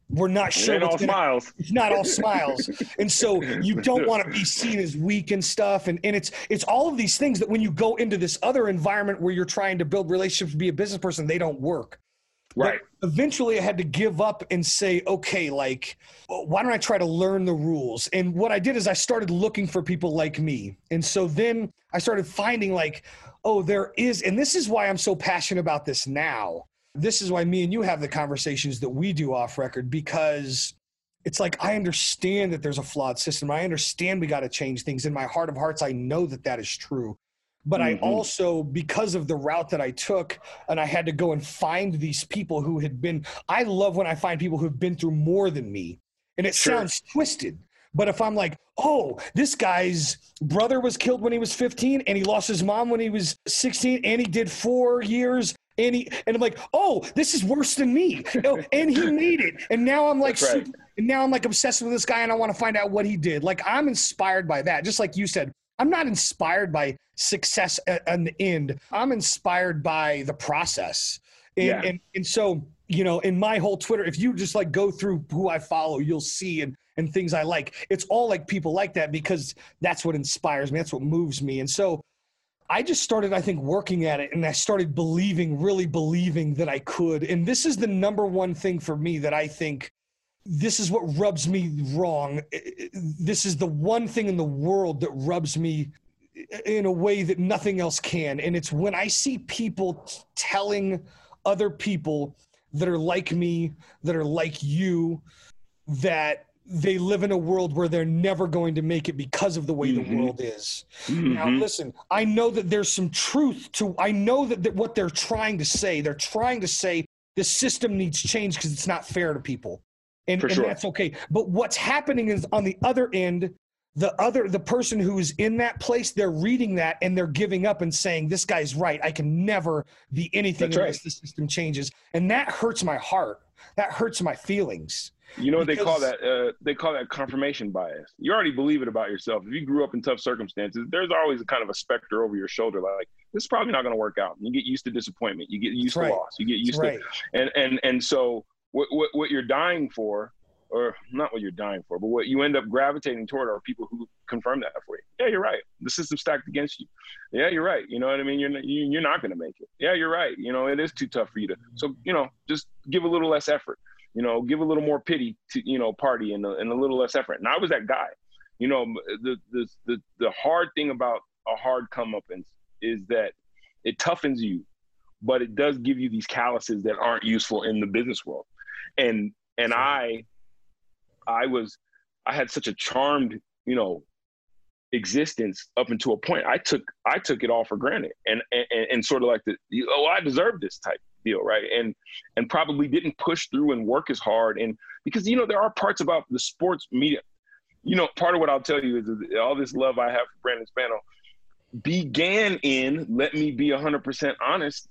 we're not
It
sure
ain't
what's
all
gonna,
smiles.
it's not all smiles. And so you don't want to be seen as weak and stuff. And, and it's, it's all of these things that when you go into this other environment where you're trying to build relationships, be a business person, they don't work.
Right.
But eventually I had to give up and say, okay, like, why don't I try to learn the rules? And what I did is I started looking for people like me. And so then I started finding like, oh, there is, and this is why I'm so passionate about this now. This is why me and you have the conversations that we do off record, because it's like, I understand that there's a flawed system. I understand we got to change things. In my heart of hearts, I know that that is true. But mm-hmm. I also, because of the route that I took, and I had to go and find these people who had been, I love when I find people who've been through more than me. And it sure. sounds twisted. But if I'm like, oh, this guy's brother was killed when he was fifteen, and he lost his mom when he was sixteen, and he did four years. And, he, and I'm like, oh, this is worse than me. And he made it. And now I'm like,
right.
super, and now I'm like obsessed with this guy, and I want to find out what he did. Like, I'm inspired by that. Just like you said, I'm not inspired by success at, at the end. I'm inspired by the process. And,
yeah.
and and so, you know, in my whole Twitter, if you just like go through who I follow, you'll see and and things I like. It's all like people like that, because that's what inspires me. That's what moves me. And so I just started, I think, working at it, and I started believing, really believing that I could. And this is the number one thing for me that I think this is what rubs me wrong. This is the one thing in the world that rubs me in a way that nothing else can. And it's when I see people t- telling other people that are like me, that are like you, that they live in a world where they're never going to make it because of the way mm-hmm. the world is. Mm-hmm. Now, listen, I know that there's some truth to, I know that, that what they're trying to say, they're trying to say the system needs change because it's not fair to people. And, and
sure.
that's okay. But what's happening is on the other end, the other, the person who's in that place, they're reading that and they're giving up and saying, this guy's right. I can never be anything
that's
unless
right.
the system changes. And that hurts my heart. That hurts my feelings.
You know what
because,
they call that? Uh, they call that confirmation bias. You already believe it about yourself. If you grew up in tough circumstances, there's always a kind of a specter over your shoulder, like this is probably not going to work out. You get used to disappointment. You get used
right.
to loss. You get used
right.
to, and and and so what, what what you're dying for, or not what you're dying for, but what you end up gravitating toward are people who confirm that for you. Yeah, you're right. The system's stacked against you. Yeah, you're right. You know what I mean? You're not, you, you're not going to make it. Yeah, you're right. You know, it is too tough for you to. So you know, just give a little less effort. You know, give a little more pity to, you know, party and a, and a little less effort. And I was that guy. You know, the the the, the hard thing about a hard comeuppance is that it toughens you, but it does give you these calluses that aren't useful in the business world. And and I, I was, I had such a charmed, you know, existence up until a point. I took I took it all for granted, and and, and sort of like the oh I deserve this type deal, right? And and probably didn't push through and work as hard. And because you know there are parts about the sports media, you know, part of what I'll tell you is all this love I have for Brandon Spano began in, let me be one hundred percent honest,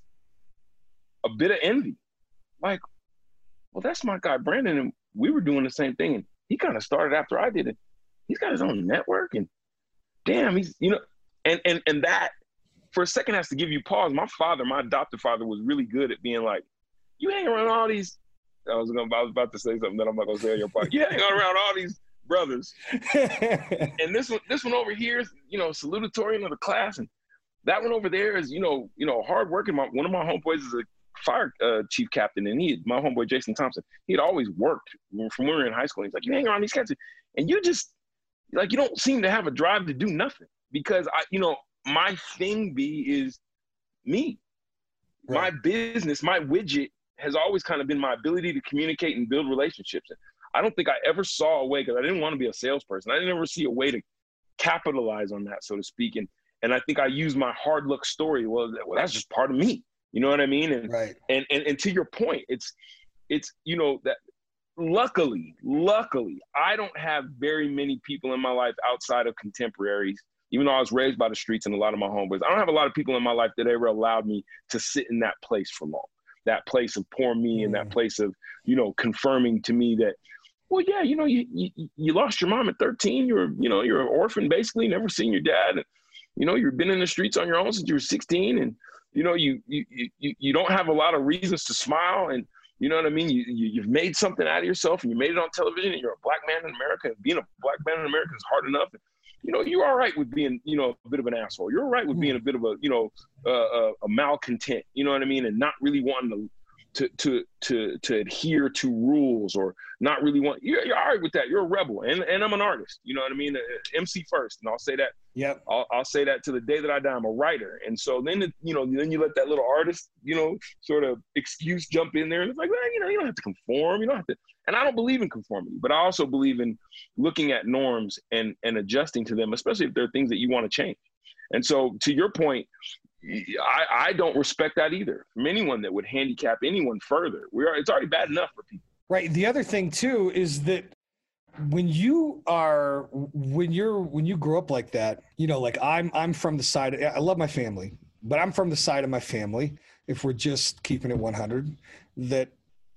a bit of envy. Like, well, that's my guy Brandon, and we were doing the same thing, and he kind of started after I did it. He's got his own network, and damn, he's, you know, and, and, and that for a second has to give you pause. My father, my adopted father, was really good at being like, you hang around all these, I was gonna, I was about to say something that I'm not gonna say on your part. You hang around all these brothers. And this one, this one over here is, you know, salutatorian of the class. And that one over there is, you know, you know, hardworking. My, one of my homeboys is a fire uh, chief captain, and he, my homeboy, Jason Thompson, he had always worked from when we were in high school. He's like, you hang around these cats and you just, like, you don't seem to have a drive to do nothing, because I, you know, my thing B is me. Right. My business, my widget has always kind of been my ability to communicate and build relationships. And I don't think I ever saw a way, because I didn't want to be a salesperson. I didn't ever see a way to capitalize on that, so to speak. And and I think I used my hard luck story. Well, well, that's just part of me. You know what I mean? And
right.
and, and and to your point, it's it's you know that luckily, luckily, I don't have very many people in my life outside of contemporaries. Even though I was raised by the streets and a lot of my homeboys, I don't have a lot of people in my life that ever allowed me to sit in that place for long. That place of poor me, mm. and that place of, you know, confirming to me that, well, yeah, you know, you, you you lost your mom at thirteen. You're, you know, you're an orphan, basically, never seen your dad. And, you know, you've been in the streets on your own since you were sixteen. And, you know, you you you you don't have a lot of reasons to smile. And, You know what I mean? You, you, you've made something out of yourself and you made it on television and you're a black man in America, and being a black man in America is hard enough. You know, you're all right with being, you know, a bit of an asshole. You're all right with being a bit of a, you know, uh, a, a malcontent, you know what I mean? And not really wanting to, to, to, to, to adhere to rules, or not really want, you're, you're all right with that. You're a rebel. And, and I'm an artist, you know what I mean? Uh, M C first. And I'll say that.
Yep.
I'll, I'll say that to the day that I die. I'm a writer. And so then, the, you know, then you let that little artist, you know, sort of excuse jump in there. And it's like, well, you know, you don't have to conform. You don't have to. And I don't believe in conformity, but I also believe in looking at norms and, and adjusting to them, especially if there are things that you want to change. And so to your point, I, I don't respect that either from anyone that would handicap anyone further. We are, it's already bad enough for people.
Right. The other thing too is that when you are, when you're, when you grow up like that, you know, like I'm, I'm from the side, I love my family, but I'm from the side of my family, if we're just keeping it one hundred, that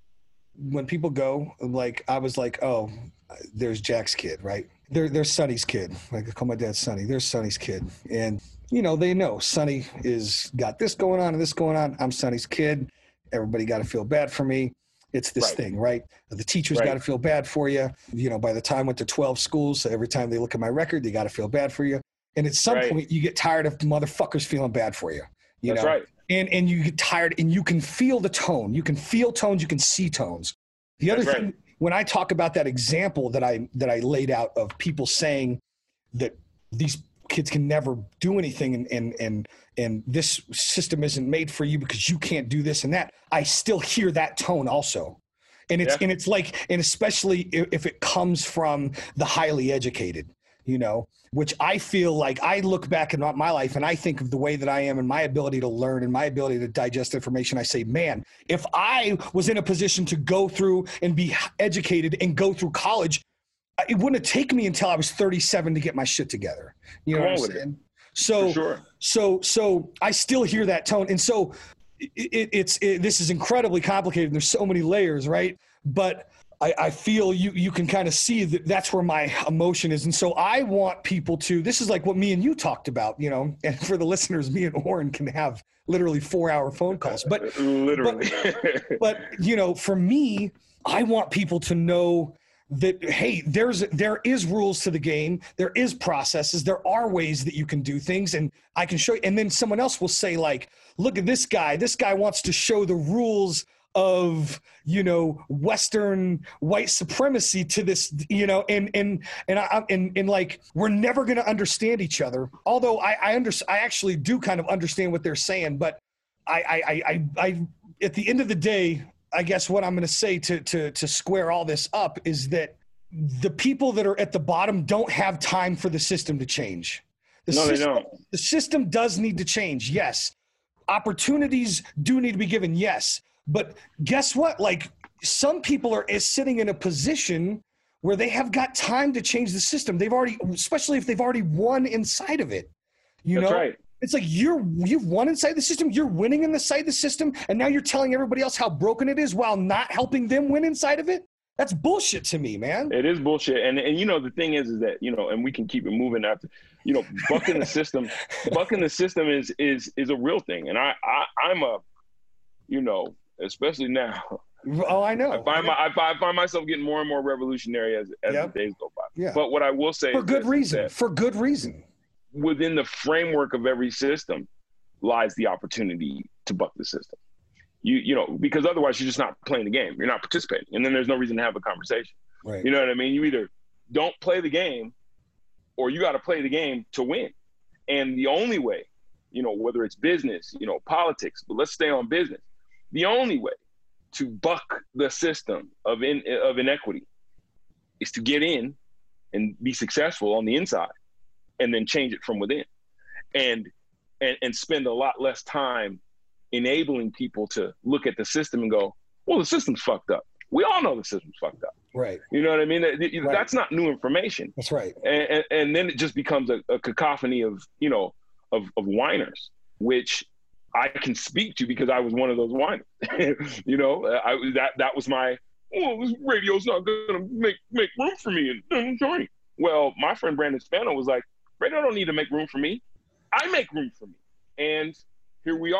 when people go, like, I was like, oh, there's Jack's kid, right? There, there's Sonny's kid. Like, I call my dad Sonny. There's Sonny's kid. And, you know, they know Sonny is got this going on and this going on. I'm Sonny's kid. Everybody got to feel bad for me. It's this
Right.
thing, right? The teachers
Right.
got to feel bad for you. You know, by the time I went to twelve schools, so every time they look at my record, they got to feel bad for you. And at some
Right.
point, you get tired of motherfuckers feeling bad for you. You
That's
know?
right.
And, and you get tired, and you can feel the tone. You can feel tones. You can see tones. The other
That's
thing,
right.
when I talk about that example that I that I laid out of people saying that these kids can never do anything, and and and and this system isn't made for you because you can't do this and that, I still hear that tone also. And it's
Yeah.
and it's like, and especially if, if it comes from the highly educated, you know, which I feel like I look back in my life and I think of the way that I am and my ability to learn and my ability to digest information. I say, man, if I was in a position to go through and be educated and go through college, it wouldn't have taken me until I was thirty-seven to get my shit together. You know
Come
what
on
I'm
with it.
saying? So,
For sure.
so, so I still hear that tone. And so it, it, it's, it, this is incredibly complicated. And there's so many layers, right? But I, I feel you, you can kind of see that that's where my emotion is. And so I want people to, this is like what me and you talked about, you know, and for the listeners, me and Oren can have literally four hour phone calls, but,
Literally.
but, but you know, for me, I want people to know that, hey, there's, there is rules to the game. There is processes. There are ways that you can do things, and I can show you. And then someone else will say, like, look at this guy. This guy wants to show the rules of, you know, Western white supremacy to this, you know, and, and, and I, and, and like, we're never going to understand each other. Although I, I under, I actually do kind of understand what they're saying, but I, I, I, I, I at the end of the day, I guess what I'm going to say to, to, to square all this up is that the people that are at the bottom don't have time for the system to change. The
No, they
system,
don't.
The system does need to change. Yes. Opportunities do need to be given. Yes. But guess what? Like, some people are is sitting in a position where they have got time to change the system. They've already, especially if they've already won inside of it. You
That's
know,
right.
it's like you're you've won inside the system. You're winning in the side of the system, and now you're telling everybody else how broken it is while not helping them win inside of it. That's bullshit to me, man.
It is bullshit. And, and you know, the thing is, is that, you know, and we can keep it moving after, you know, bucking the system, bucking the system is, is, is a real thing. And I, I, I'm a, you know, especially now,
Oh, I know.
I find my, I find, I find myself getting more and more revolutionary as, as
Yep.
the days go by.
Yeah.
But what I will say
For
is
good
this,
reason.
that
For good reason.
within the framework of every system lies the opportunity to buck the system. You, you know, because otherwise you're just not playing the game. You're not participating. And then there's no reason to have a conversation.
Right.
You know what I mean? You either don't play the game or you got to play the game to win. And the only way, you know, whether it's business, you know, politics, but let's stay on business. The only way to buck the system of in, of inequity is to get in and be successful on the inside and then change it from within. And, and, and spend a lot less time enabling people to look at the system and go, well, the system's fucked up. We all know the system's fucked up.
Right.
You know what I mean? That- that-
Right.
That's not new information.
That's right.
And, and, and then it just becomes a, a cacophony of, you know, of, of whiners, which I can speak to because I was one of those whiners. You know, I that that was my, oh, this radio's not going to make make room for me. And join. Well, my friend Brandon Spano was like, radio don't need to make room for me. I make room for me. And here we are.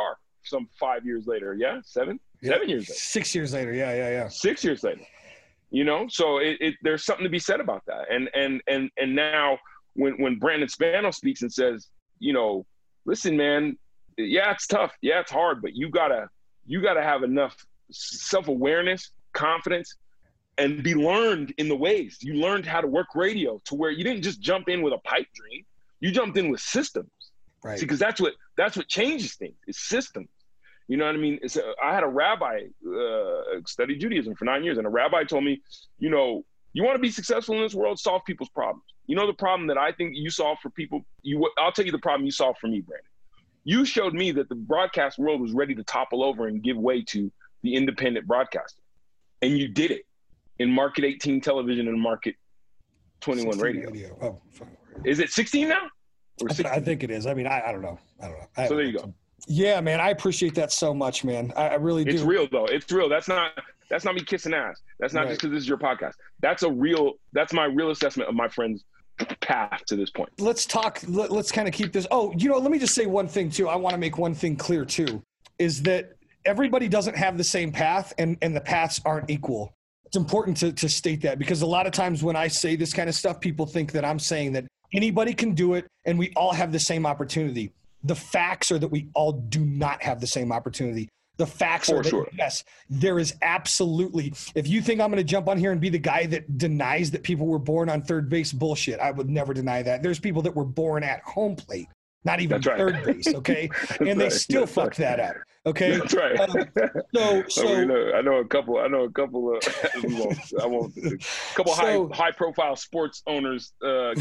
some five years later. Yeah, seven,
yeah.
seven years later.
Six years later. Yeah, yeah, yeah.
Six years later. You know, so it, it there's something to be said about that. And and and and now when when Brandon Spano speaks and says, you know, listen, man, yeah, it's tough, yeah, it's hard, but you gotta you gotta have enough self-awareness, confidence, and be learned in the ways. You learned how to work radio to where you didn't just jump in with a pipe dream. You jumped in with systems.
Right.
See, because that's what that's what changes things. It's systems. You know what I mean? It's a, I had a rabbi uh, study Judaism for nine years, and a rabbi told me, you know, you want to be successful in this world, solve people's problems. You know the problem that I think you solve for people? You, I'll tell you the problem you solved for me, Brandon. You showed me that the broadcast world was ready to topple over and give way to the independent broadcaster. And you did it in Market eighteen television and Market twenty-one radio. radio. Oh, is it sixteen now? Or
I, th- I think it is. I mean, I, I don't know. I don't know. I
so there you go.
Yeah, man, I appreciate that so much, man. I, I really do.
It's real, though. It's real. That's not that's not me kissing ass. That's not right. Just because this is your podcast. That's a real. That's my real assessment of my friend's path to this point.
Let's talk. Let, let's kind of keep this. Oh, you know, let me just say one thing too. I want to make one thing clear too, is that everybody doesn't have the same path, and and the paths aren't equal. It's important to to state that, because a lot of times when I say this kind of stuff, people think that I'm saying that anybody can do it and we all have the same opportunity. The facts are that we all do not have the same opportunity. The facts
For
are that,
sure.
yes, there is absolutely, if you think I'm going to jump on here and be the guy that denies that people were born on third base, bullshit. I would never deny that. There's people that were born at home plate, not even
right.
third base, okay? And they
right.
still
That's
fucked
right.
that up, okay?
That's right.
Um, so, so
I, mean, uh, I know a couple. I know a couple of. we won't, I won't. A couple
so,
high high profile sports owners. Uh,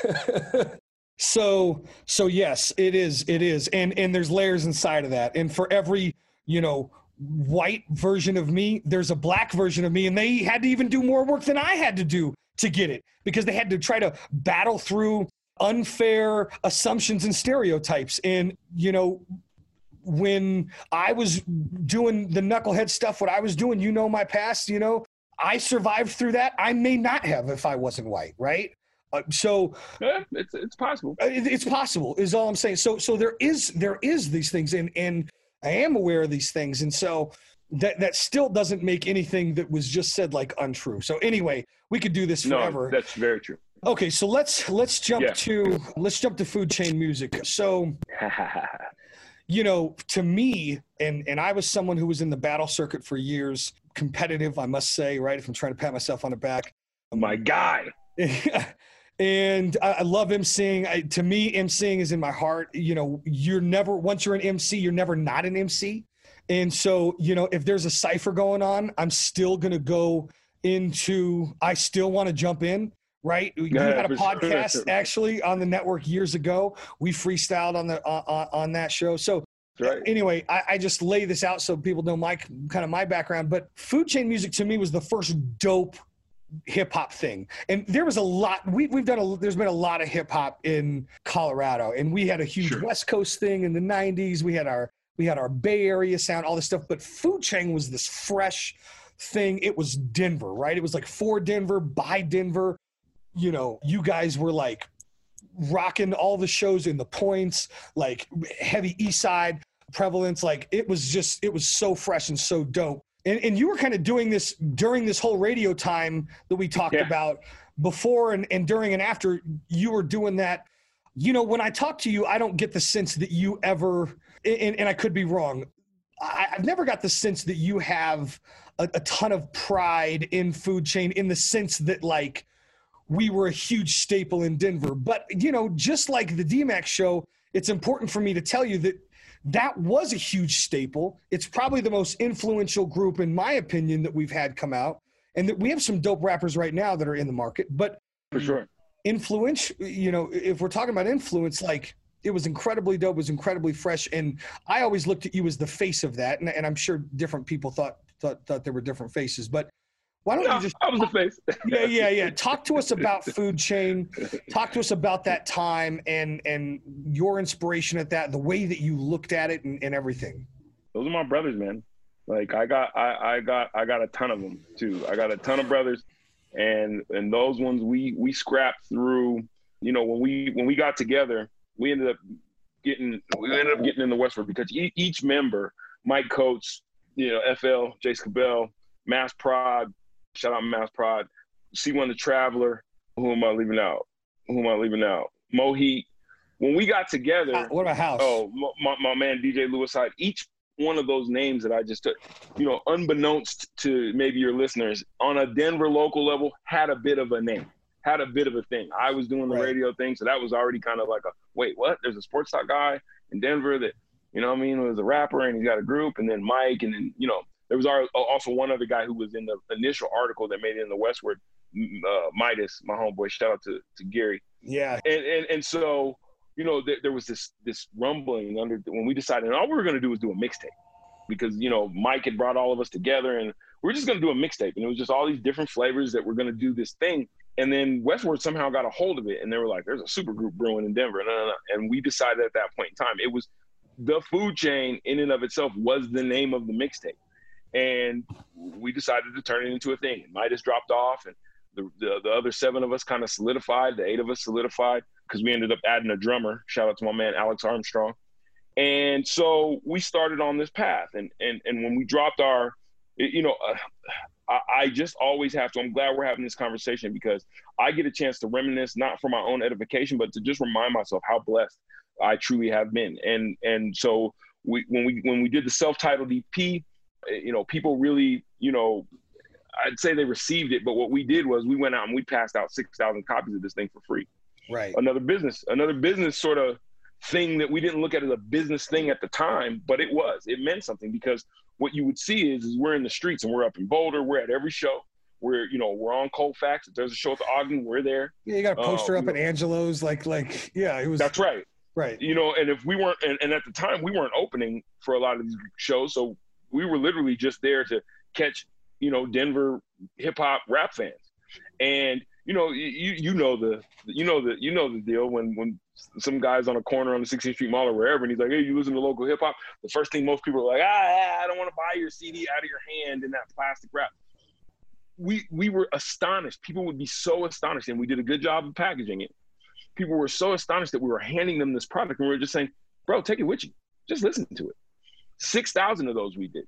So, so yes, it is, it is. And, and there's layers inside of that. And for every, you know, white version of me, there's a black version of me, and they had to even do more work than I had to do to get it, because they had to try to battle through unfair assumptions and stereotypes. And, you know, when I was doing the knucklehead stuff, what I was doing, you know, my past, you know, I survived through that. I may not have if I wasn't white. Right. Uh, so
yeah, it's it's possible.
It, it's possible is all I'm saying. So so there is there is these things, and and I am aware of these things, and so that that still doesn't make anything that was just said like untrue. So anyway, we could do this forever.
No, that's very true.
Okay, so let's let's jump
yeah.
to let's jump to Food Chain Music. So you know, to me, and and I was someone who was in the battle circuit for years, competitive, I must say, right? If I'm trying to pat myself on the back,
my guy.
And I, I love emceeing. I, to me, emceeing is in my heart. You know, you're never, once you're an M C, you're never not an M C. And so, you know, if there's a cypher going on, I'm still going to go into, I still want to jump in, right? We
yeah,
had a podcast
sure.
actually on the network years ago. We freestyled on the, on, on that show. So
right.
anyway, I, I just lay this out so people know my, kind of my background, but Food Chain Music to me was the first dope hip hop thing. And there was a lot, we, we've done a, there's been a lot of hip hop in Colorado, and we had a huge
sure.
West Coast thing in the nineties. We had our, we had our Bay Area sound, all this stuff, but Food Chain was this fresh thing. It was Denver, right? It was like for Denver, by Denver. You know, you guys were like rocking all the shows in the points, like heavy East Side prevalence. Like it was just, it was so fresh and so dope. And, and you were kind of doing this during this whole radio time that we talked
yeah.
about before and, and during and after. You were doing that. You know, when I talk to you, I don't get the sense that you ever, and, and I could be wrong, I, I've never got the sense that you have a, a ton of pride in Food Chain in the sense that, like, we were a huge staple in Denver. But, you know, just like the D-Max show, it's important for me to tell you that that was a huge staple. It's probably the most influential group, in my opinion, that we've had come out, and that we have some dope rappers right now that are in the market. But
for sure,
influence, you know, if we're talking about influence, like it was incredibly dope, it was incredibly fresh, and I always looked at you as the face of that. And, and I'm sure different people thought thought thought there were different faces, but why don't
no,
you just
I was the face.
yeah, yeah, yeah. Talk to us about Food Chain. Talk to us about that time and and your inspiration at that, the way that you looked at it and, and everything.
Those are my brothers, man. Like I got I, I got I got a ton of them too. I got a ton of brothers, and and those ones we we scrapped through. You know, when we when we got together, we ended up getting we ended up getting in the Westward because e- each member, Mike Coates, you know, F L, Jace Cabell, Mass Prod, shout out Mass Prod, C one the Traveler. Who am I leaving out? Who am I leaving out? Moheat. When we got together,
uh, what about House?
Oh, my, my man D J Lewis Hyde. Each one of those names that I just took, you know, unbeknownst to maybe your listeners, on a Denver local level, had a bit of a name, had a bit of a thing. I was doing the
Right.
radio thing, so that was already kind of like a, wait, what? There's a sports talk guy in Denver that, you know what I mean, was a rapper, and he's got a group, and then Mike, and then, you know, there was also one other guy who was in the initial article that made it in the Westward, uh, Midas, my homeboy. Shout out to, to Gary.
Yeah.
And, and, and so, you know, there, there was this this rumbling under when we decided, and all we were going to do was do a mixtape because, you know, Mike had brought all of us together, and we were just going to do a mixtape. And it was just all these different flavors that were going to do this thing. And then Westward somehow got a hold of it, and they were like, there's a super group brewing in Denver. No, no, no. And we decided at that point in time, it was the Food Chain in and of itself was the name of the mixtape. And we decided to turn it into a thing. Midas dropped off, and the, the, the other seven of us kind of solidified. The eight of us solidified because we ended up adding a drummer. Shout out to my man, Alex Armstrong. And so we started on this path. And and and when we dropped our, you know, uh, I, I just always have to, I'm glad we're having this conversation because I get a chance to reminisce, not for my own edification, but to just remind myself how blessed I truly have been. And and so we when we when we did the self-titled E P, you know, people really, you know, I'd say they received it, but what we did was we went out and we passed out six thousand copies of this thing for free.
Right.
Another business, another business sort of thing that we didn't look at as a business thing at the time, but it was. It meant something because what you would see is, is we're in the streets and we're up in Boulder. We're at every show. We're, you know, we're on Colfax. If there's a show at the Ogden, we're there.
Yeah, you got a poster
uh,
up at Angelo's, like, like, yeah, it was.
That's right.
Right.
You know, and if we weren't, and, and at the time we weren't opening for a lot of these shows, so we were literally just there to catch, you know, Denver hip hop rap fans. And, you know, you you know the you know the you know the deal when when some guy's on a corner on the sixteenth Street Mall or wherever, and he's like, hey, you listen to local hip hop? The first thing most people are like, ah, I don't want to buy your C D out of your hand in that plastic wrap. We we were astonished. People would be so astonished, and we did a good job of packaging it. People were so astonished that we were handing them this product, and we were just saying, bro, take it with you. Just listen to it. six thousand of those we did.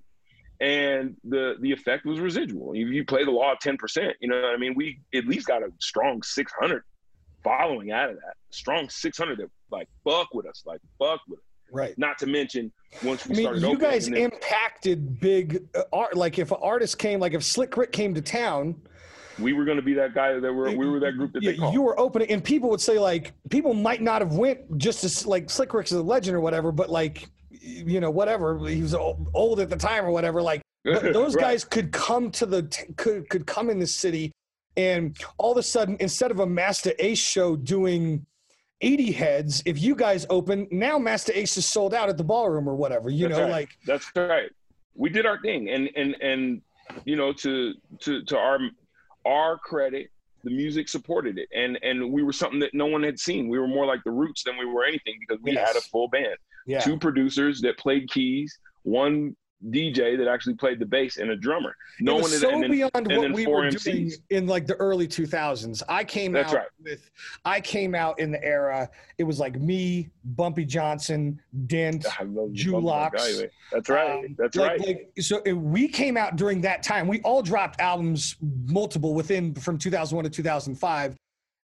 And the the effect was residual. If you play the law of ten percent, you know what I mean? We at least got a strong six hundred following out of that. Strong six hundred that, like, fuck with us, like, fuck with us.
Right.
Not to mention, once we
I mean,
started
you
opening,
guys
then,
impacted big uh, art. Like, if an artist came, like if Slick Rick came to town,
we were going to be that guy that were we were that group that
yeah,
they called.
you were opening, and people would say, like, people might not have went just as, like, Slick Rick's a legend or whatever, but, like, you know, whatever, he was old at the time or whatever, like, those
right.
guys could come to the could could come in the city, and all of a sudden, instead of a Master Ace show doing eighty heads, if you guys open, now Master Ace is sold out at the ballroom or whatever, you
That's
know,
right.
like
that's right. We did our thing, and and and you know, to to to our our credit, the music supported it, and and we were something that no one had seen. We were more like the Roots than we were anything because we
Yes.
had a full band,
yeah.
two producers that played keys, one D J that actually played the bass, and a drummer. No
it was
one had,
so
and then,
beyond
and
what
then
we
four
were
M Cs.
doing in like the early two thousands. I came
That's
out
right.
with, I came out in the era. It was like me, Bumpy Johnson, Dent,
I love you,
Julox.
Bumpy. That's right.
Um,
That's
like,
right.
Like, so it, we came out during that time. We all dropped albums, multiple within from two thousand one to two thousand five,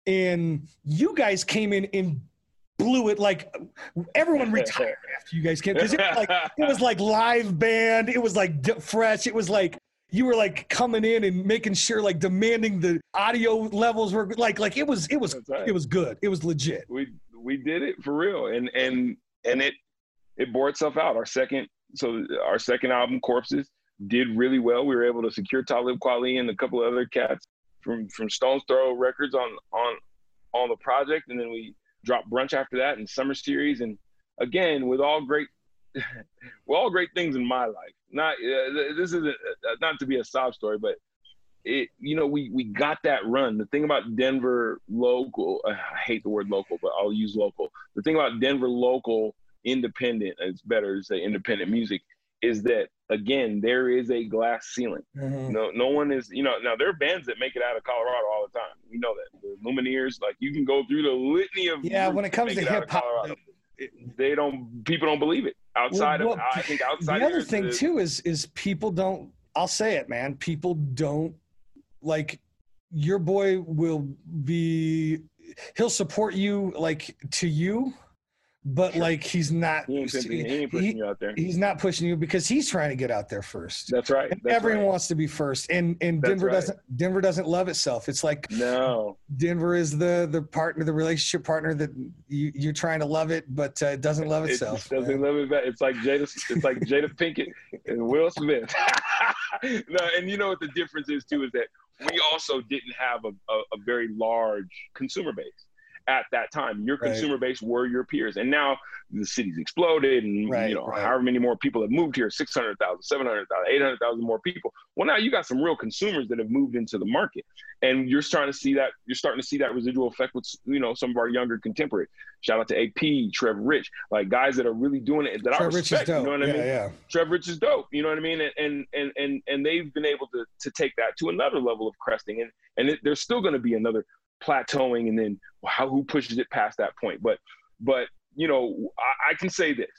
and you guys came in and blew it. Like everyone retired after you guys came because it was like it was like live band. It was like d- fresh. It was like you were like coming in and making sure, like demanding the audio levels were like like it was it was
That's right.
it was good. It was legit.
we we did it for real, and and and it it bore itself out. Our second so our second album, Corpses, did really well. We were able to secure Talib Kweli and a couple of other cats from from Stone's Throw Records on on on the project, and then we dropped Brunch after that and Summer Series, and again with all great with all great things in my life. Not uh, this isn't uh, not to be a sob story, but it, you know, we we got that run. The thing about Denver local, uh, I hate the word local, but I'll use local. The thing about Denver local independent, it's better to say independent music, is that, again, there is a glass ceiling.
Mhm.
No no one is, you know, now there are bands that make it out of Colorado all the time. We know that. The Lumineers, like, you can go through the litany of
Yeah,
groups
when it comes
that
to
make it out of
hip hop,
Colorado. they don't. People don't believe it. Outside
well,
of,
well,
I think outside.
The other
of
thing
the,
too is is people don't. I'll say it, man. People don't like. Your boy will be. He'll support you like to you. But
Sure.
like he's not
He ain't, pushing, he ain't pushing
he,
you out there.
He's not pushing you because he's trying to get out there first.
That's right.
And
That's
everyone
right.
wants to be first. And and
That's
Denver
right.
doesn't Denver doesn't love itself. It's like
No.
Denver is the the partner, the relationship partner that you, you're trying to love it, but uh, it doesn't love
It
itself.
just doesn't
man.
love it back. It's like Jada it's like Jada Pinkett and Will Smith. No, and you know what the difference is too is that we also didn't have a, a, a very large consumer base at that time. Your
Right.
consumer base were your peers. And now the city's exploded and,
Right,
you know,
right.
however many more people have moved here, six hundred thousand, seven hundred thousand, eight hundred thousand more people. Well, now you got some real consumers that have moved into the market. And you're starting to see that, you're starting to see that residual effect with, you know, some of our younger contemporaries. Shout out to A P, Trev Rich, like guys that are really doing it that
Trev
I
Rich is
respect.
dope.
You know what
yeah,
I mean?
yeah.
Trev Rich is dope. You know what I mean? And and and and they've been able to to take that to another level of cresting. And and it, there's still going to be another plateauing, and then how who pushes it past that point. But but you know, I, I can say this: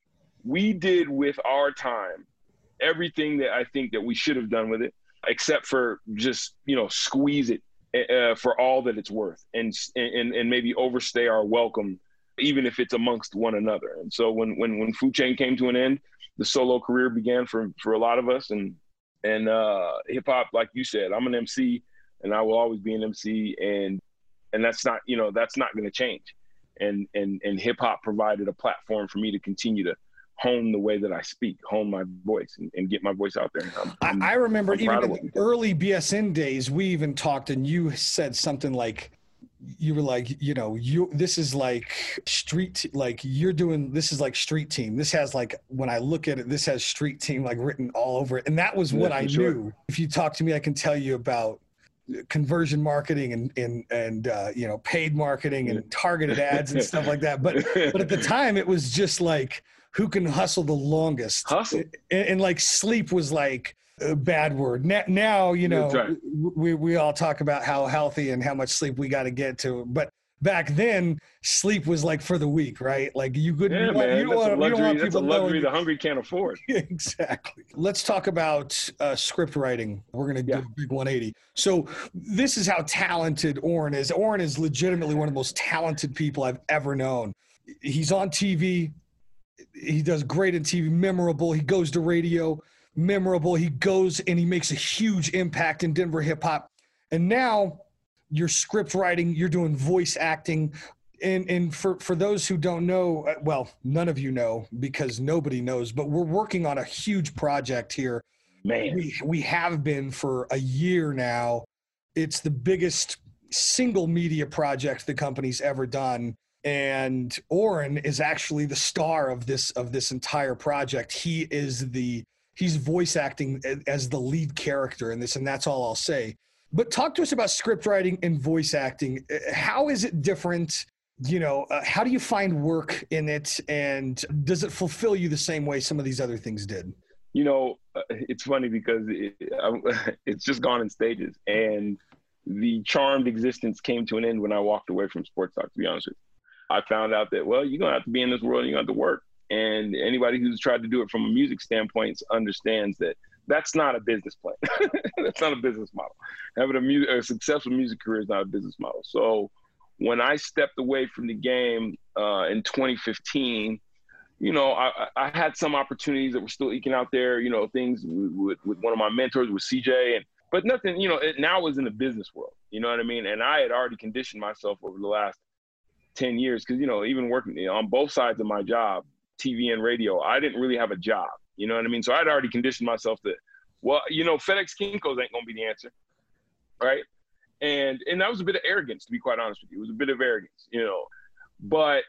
we did with our time everything that I think that we should have done with it, except for just you know squeeze it uh, for all that it's worth, and and and maybe overstay our welcome, even if it's amongst one another. And so when when when Food Chain came to an end, the solo career began for for a lot of us, and and uh, hip hop, like you said, I'm an M C. And I will always be an M C, and and that's not, you know, that's not going to change. And and and hip hop provided a platform for me to continue to hone the way that I speak, hone my voice, and, and get my voice out there. I'm, I'm,
I, I remember
I'm
even
proud
in
of
the
it.
early B S N days, we even talked, and you said something like, you were like, you know, you this is like street, like you're doing, this is like street team. This has like, when I look at it, this has street team like written all over it. And that was what
Yeah,
I
for sure.
knew. If you talk to me, I can tell you about conversion marketing and and and uh, you know, paid marketing and targeted ads and stuff like that. But but at the time, it was just like who can hustle the longest.
Hustle.
And, and like sleep was like a bad word. Now, now you know,
That's right.
we we all talk about how healthy and how much sleep we got to get to, but back then, sleep was like for the weak, right? Like you couldn't.
Yeah,
you want,
man,
you don't
that's a
want, you don't
luxury.
want
That's a
people
luxury
knowing.
the hungry can't afford.
Exactly. Let's talk about uh, script writing. We're going to
Yeah.
do a big one eighty. So this is how talented Oren is. Oren is legitimately one of the most talented people I've ever known. He's on T V. He does great in T V, memorable. He goes to radio, memorable. He goes and he makes a huge impact in Denver hip hop. And now you're script writing, you're doing voice acting. And and for, for those who don't know, well, none of you know because nobody knows, but we're working on a huge project here.
Man,
We, we have been for a year now. It's the biggest single media project the company's ever done. And Oren is actually the star of this of this entire project. He is the he's voice acting as the lead character in this, and that's all I'll say. But talk to us about script writing and voice acting. How is it different? You know, uh, how do you find work in it, and does it fulfill you the same way some of these other things did?
you know, uh, it's funny because it, I, it's just gone in stages, and the charmed existence came to an end when I walked away from Sports Talk, to be honest with you. I found out that, well, you're going to have to be in this world and you're going to have to work. And anybody who's tried to do it from a music standpoint understands that that's not a business plan. That's not a business model. Having a, mu- a successful music career is not a business model. So when I stepped away from the game uh, in twenty fifteen, you know, I, I had some opportunities that were still eking out there, you know, things with, with, with one of my mentors, with C J, and but nothing, you know, it now was in the business world, you know what I mean? And I had already conditioned myself over the last ten years because, you know, even working you know, on both sides of my job, T V and radio, I didn't really have a job, you know what I mean? So I'd already conditioned myself that, well, you know, FedEx Kinko's ain't going to be the answer, right? And and that was a bit of arrogance, to be quite honest with you. It was a bit of arrogance, you know. But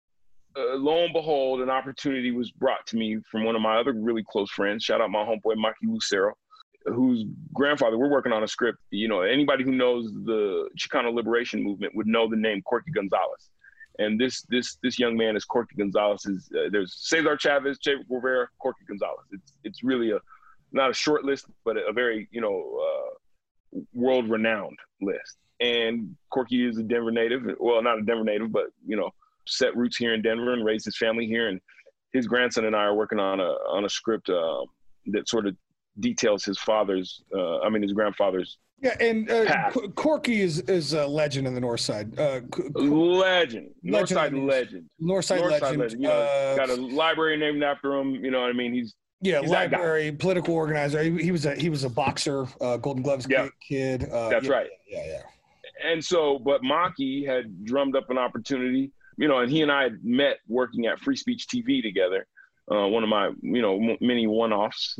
uh, lo and behold, an opportunity was brought to me from one of my other really close friends. Shout out my homeboy, Maki Lucero, whose grandfather, we're working on a script. You know, anybody who knows the Chicano liberation movement would know the name Corky Gonzalez. And this this this young man is Corky Gonzalez. Is, uh, there's Cesar Chavez, Che Rivera, Corky Gonzalez. It's it's really a not a short list, but a, a very you know uh, world renowned list. And Corky is a Denver native. Well, not a Denver native, but you know set roots here in Denver and raised his family here. And his grandson and I are working on a on a script uh, that sort of details his father's, uh, I mean, his grandfather's.
Yeah, and uh, Corky is is a legend in the North Side. Uh,
legend, North Side
legend.
legend,
North Side
North
legend.
Side legend. You know, uh, got a library named after him. You know what I mean? He's
yeah,
he's
library, political organizer. He, he was a he was a boxer, uh, Golden Gloves
yeah.
kid. Uh,
That's
yeah,
right.
Yeah, yeah.
And so, but Maki had drummed up an opportunity, you know, and he and I had met working at Free Speech T V together. Uh, one of my, you know, many one-offs.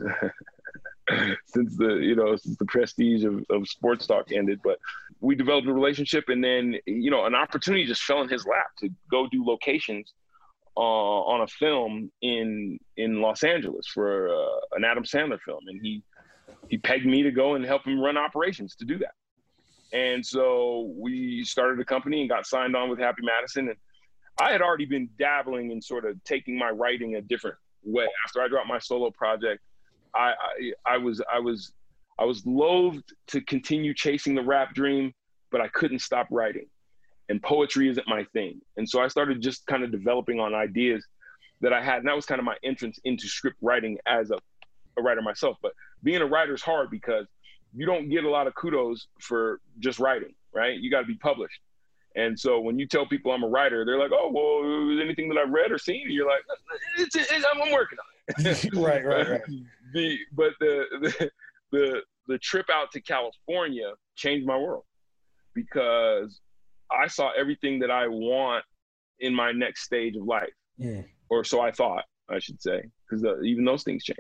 since the you know since the prestige of, of sports talk ended, but we developed a relationship, and then you know an opportunity just fell in his lap to go do locations uh, on a film in in Los Angeles for uh, an Adam Sandler film, and he he pegged me to go and help him run operations to do that. And so we started a company and got signed on with Happy Madison, and I had already been dabbling in sort of taking my writing a different way after I dropped my solo project. I, I I was I was I was loath to continue chasing the rap dream, but I couldn't stop writing, and poetry isn't my thing. And so I started just kind of developing on ideas that I had, and that was kind of my entrance into script writing as a, a writer myself. But being a writer is hard because you don't get a lot of kudos for just writing, right? You got to be published. And so when you tell people I'm a writer, they're like, "Oh, well, anything that I've read or seen?" And you're like, it's, it's, "I'm working on it."
right, right, right.
The but the, the the the trip out to California changed my world because I saw everything that I want in my next stage of life,
yeah.
or so I thought, I should say, because uh, even those things change.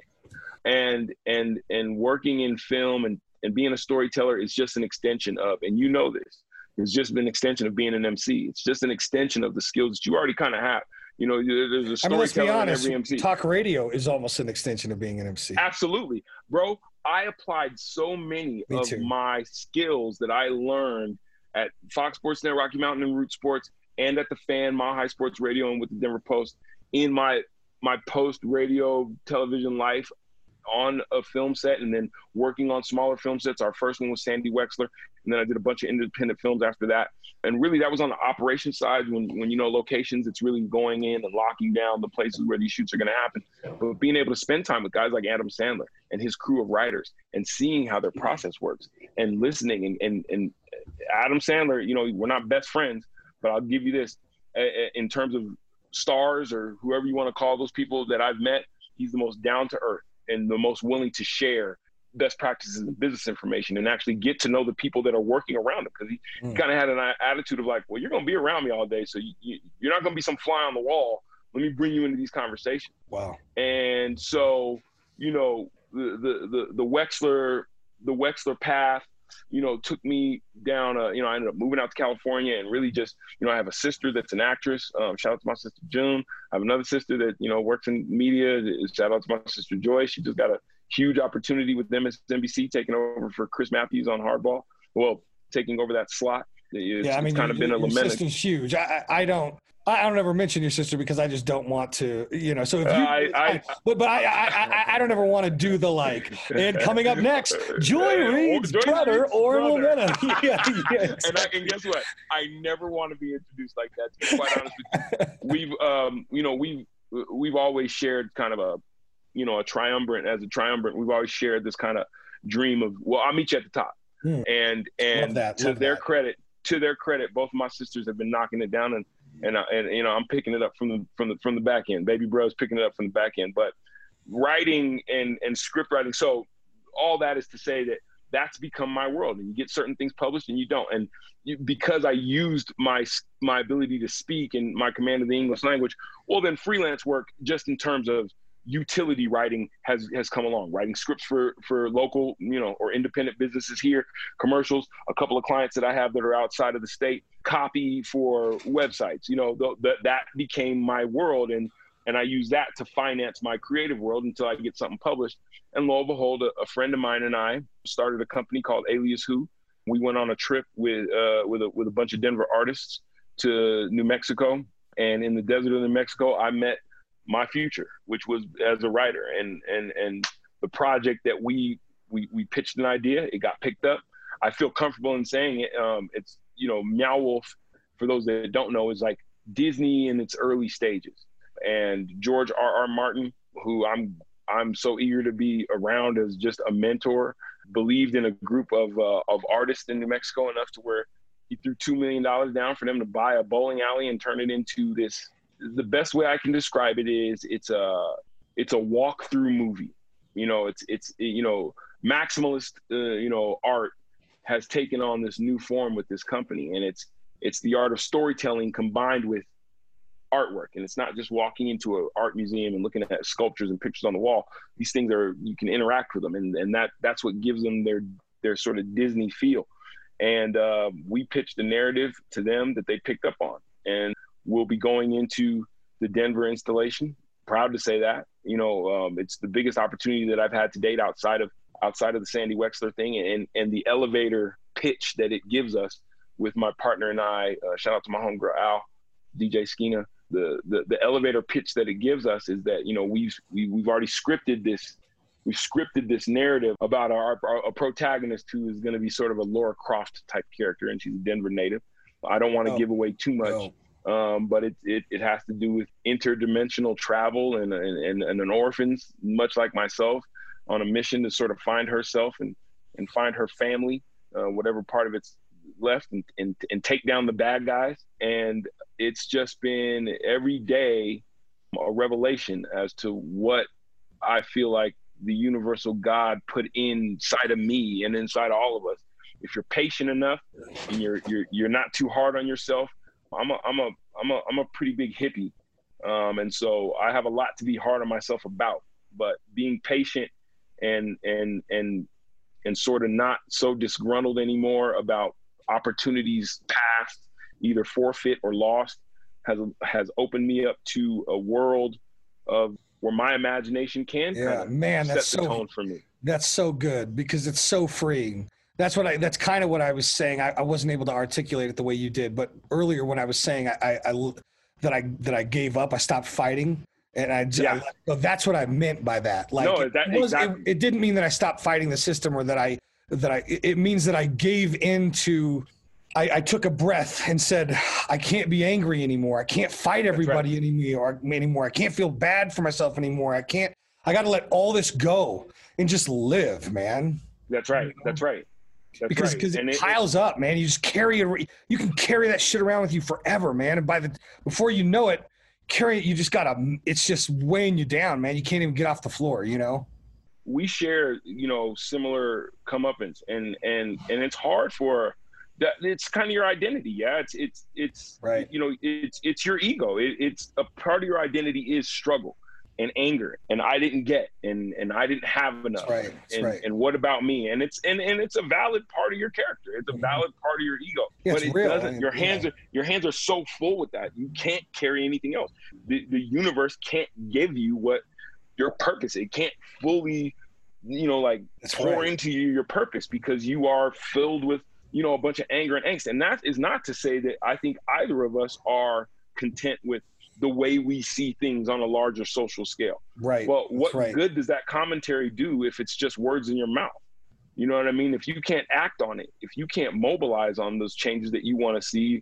And and and working in film and and being a storyteller is just an extension of, and you know this, it's just an extension of being an M C. It's just an extension of the skills that you already kind of have. You know, there's a storyteller
I mean, let's be honest,
in every M C.
Talk radio is almost an extension of being an M C.
Absolutely. Bro, I applied so many
Me
of
too.
my skills that I learned at Fox Sports Net, Rocky Mountain and Root Sports, and at the Fan, Mile High Sports Radio, and with the Denver Post in my my post radio television life on a film set, and then working on smaller film sets. Our first one was Sandy Wexler, and then I did a bunch of independent films after that. And really that was on the operations side when, when you know, locations, it's really going in and locking down the places where these shoots are going to happen. But being able to spend time with guys like Adam Sandler and his crew of writers and seeing how their process works and listening and, and, and Adam Sandler, you know, we're not best friends, but I'll give you this, in terms of stars or whoever you want to call those people that I've met, he's the most down to earth and the most willing to share best practices and business information and actually get to know the people that are working around him. Because he mm. kind of had an attitude of like, well, you're going to be around me all day, so you, you, you're not going to be some fly on the wall. Let me bring you into these conversations.
Wow.
And so, you know, the the the, the Wexler the Wexler path, you know, took me down. A, you know, I ended up moving out to California and really just, you know, I have a sister that's an actress. Um, shout out to my sister June. I have another sister that, you know, works in media. Shout out to my sister Joy. She just got a huge opportunity with M S N B C, taking over for Chris Matthews on Hardball. Well, taking over that slot. It's,
yeah, I mean,
it's kind of been a
your
lament.
sister's huge. I, I, I don't. I don't ever mention your sister because I just don't want to, you know. So if you,
uh, I, I,
but but I, I I I don't ever want to do the like. And coming up next, Joy Reid's
Joy
brother,
Reid's
Oren
brother.
Lamena. yeah, yeah,
and, I, and guess what? I never want to be introduced like that. To be quite honest with you, we've um you know we've we've always shared kind of a you know a triumvirate as a triumvirate. We've always shared this kind of dream of, well, I'll meet you at the top.
Hmm.
And and
Love that.
to
Love
their
that.
credit, to their credit, both of my sisters have been knocking it down, and and I, and you know I'm picking it up from the from the from the back end. Baby bro's picking it up from the back end. But writing and and script writing, so all that is to say that that's become my world. And you get certain things published and you don't. And you, because I used my my ability to speak and my command of the English language, well, then freelance work, just in terms of utility writing, has has come along. Writing scripts for for local, you know, or independent businesses here, commercials, a couple of clients that I have that are outside of the state, copy for websites. You know, th- th- that became my world, and and I use that to finance my creative world until I get something published. And lo and behold, a, a friend of mine and I started a company called Alias Who. We went on a trip with uh, with a, with a bunch of Denver artists to New Mexico, and in the desert of New Mexico, I met my future, which was as a writer. And and and the project that we we we pitched an idea, it got picked up. I feel comfortable in saying it. Um, it's, you know, Meow Wolf, for those that don't know, is like Disney in its early stages. And George R. R. Martin, who I'm I'm so eager to be around as just a mentor, believed in a group of uh, of artists in New Mexico enough to where he threw two million dollars down for them to buy a bowling alley and turn it into this. The best way I can describe it is it's a it's a walk-through movie. You know, it's it's you know maximalist uh, you know art has taken on this new form with this company, and it's it's the art of storytelling combined with artwork. And it's not just walking into an art museum and looking at sculptures and pictures on the wall. These things are, you can interact with them, and and that that's what gives them their their sort of Disney feel. And uh, we pitched a narrative to them that they picked up on, and we'll be going into the Denver installation. Proud to say that. You know, um, it's the biggest opportunity that I've had to date outside of outside of the Sandy Wexler thing, and and the elevator pitch that it gives us with my partner and I. Uh, shout out to my homegirl Al, D J Skeena. The, the the elevator pitch that it gives us is that, you know, we've we, we've already scripted this. We've scripted this narrative about our, our a protagonist who is going to be sort of a Laura Croft type character, and she's a Denver native. I don't want to oh, give away too much. No. Um, but it, it it has to do with interdimensional travel and, and and an orphan, much like myself, on a mission to sort of find herself and and find her family, uh, whatever part of it's left, and, and and take down the bad guys. And it's just been every day a revelation as to what I feel like the universal God put inside of me and inside of all of us. If you're patient enough and you're you're you're not too hard on yourself. I'm a I'm a I'm a I'm a pretty big hippie, um, and so I have a lot to be hard on myself about. But being patient and and and and sort of not so disgruntled anymore about opportunities past, either forfeit or lost, has has opened me up to a world of where my imagination can
yeah,
kind of
man,
set
that's
the
so,
tone for me.
That's so good because it's so freeing. That's what I, that's kind of what I was saying. I, I wasn't able to articulate it the way you did, but earlier when I was saying I, I, I that I, that I gave up, I stopped fighting. And I,
yeah.
I so that's what I meant by that. Like
no, that,
it, was,
exactly.
it, it didn't mean that I stopped fighting the system or that I, that I, it means that I gave into, I, I took a breath and said, I can't be angry anymore. I can't fight everybody right. anymore, anymore. I can't feel bad for myself anymore. I can't, I got to let all this go and just live, man.
That's right. You know? That's right. That's
because
right.
because it,
it
piles
it,
up, man. You just carry it. You can carry that shit around with you forever, man. And by the before you know it, carry it. You just gotta. It's just weighing you down, man. You can't even get off the floor. You know.
We share, you know, similar comeuppance, and and and it's hard for that. It's kind of your identity, yeah. It's it's it's
right.
You know, it's it's your ego. It, it's a part of your identity is struggle and anger, and I didn't get, and and I didn't have enough.
That's right. That's
and,
right.
and what about me? And it's and, and it's a valid part of your character. It's a valid part of your ego.
Yeah,
but
it's
it
real.
doesn't.
I mean,
your hands
yeah.
are your hands are so full with that. You can't carry anything else. The the universe can't give you what your purpose. It can't fully, you know, like
That's
pour
right.
into you your purpose because you are filled with, you know, a bunch of anger and angst. And that is not to say that I think either of us are content with the way we see things on a larger social scale.
Right.
Well, what
right.
good does that commentary do if it's just words in your mouth? You know what I mean? If you can't act on it, if you can't mobilize on those changes that you want to see,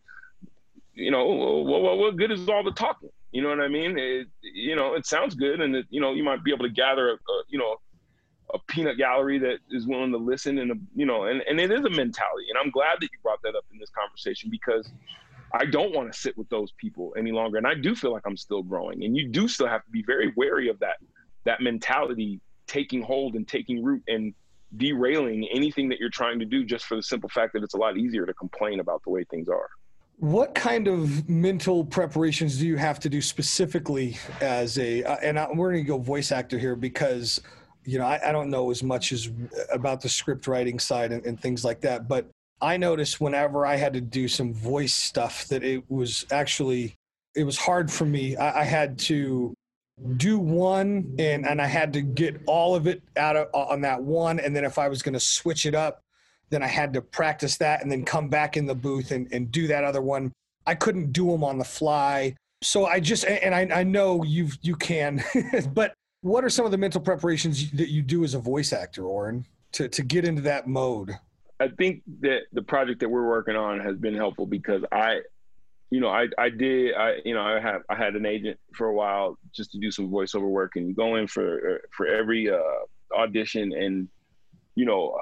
you know, what, what, what good is all the talking? You know what I mean? It, you know, it sounds good, and it, you know, you might be able to gather a, a you know, a peanut gallery that is willing to listen, and a, you know, and, and it is a mentality. And I'm glad that you brought that up in this conversation because I don't want to sit with those people any longer. And I do feel like I'm still growing, and you do still have to be very wary of that, that mentality taking hold and taking root and derailing anything that you're trying to do just for the simple fact that it's a lot easier to complain about the way things are.
What kind of mental preparations do you have to do specifically as a, uh, and I, we're going to go voice actor here because, you know, I, I don't know as much as about the script writing side and, and things like that, but I noticed whenever I had to do some voice stuff that it was actually, it was hard for me. I, I had to do one and, and I had to get all of it out of on that one. And then if I was going to switch it up, then I had to practice that and then come back in the booth and, and do that other one. I couldn't do them on the fly. So I just, and I, I know you you can, but what are some of the mental preparations that you do as a voice actor, Oren, to, to get into that mode?
I think that the project that we're working on has been helpful because I, you know, I, I did, I, you know, I had, I had an agent for a while just to do some voiceover work, and you go in for, for every uh, audition. And, you know,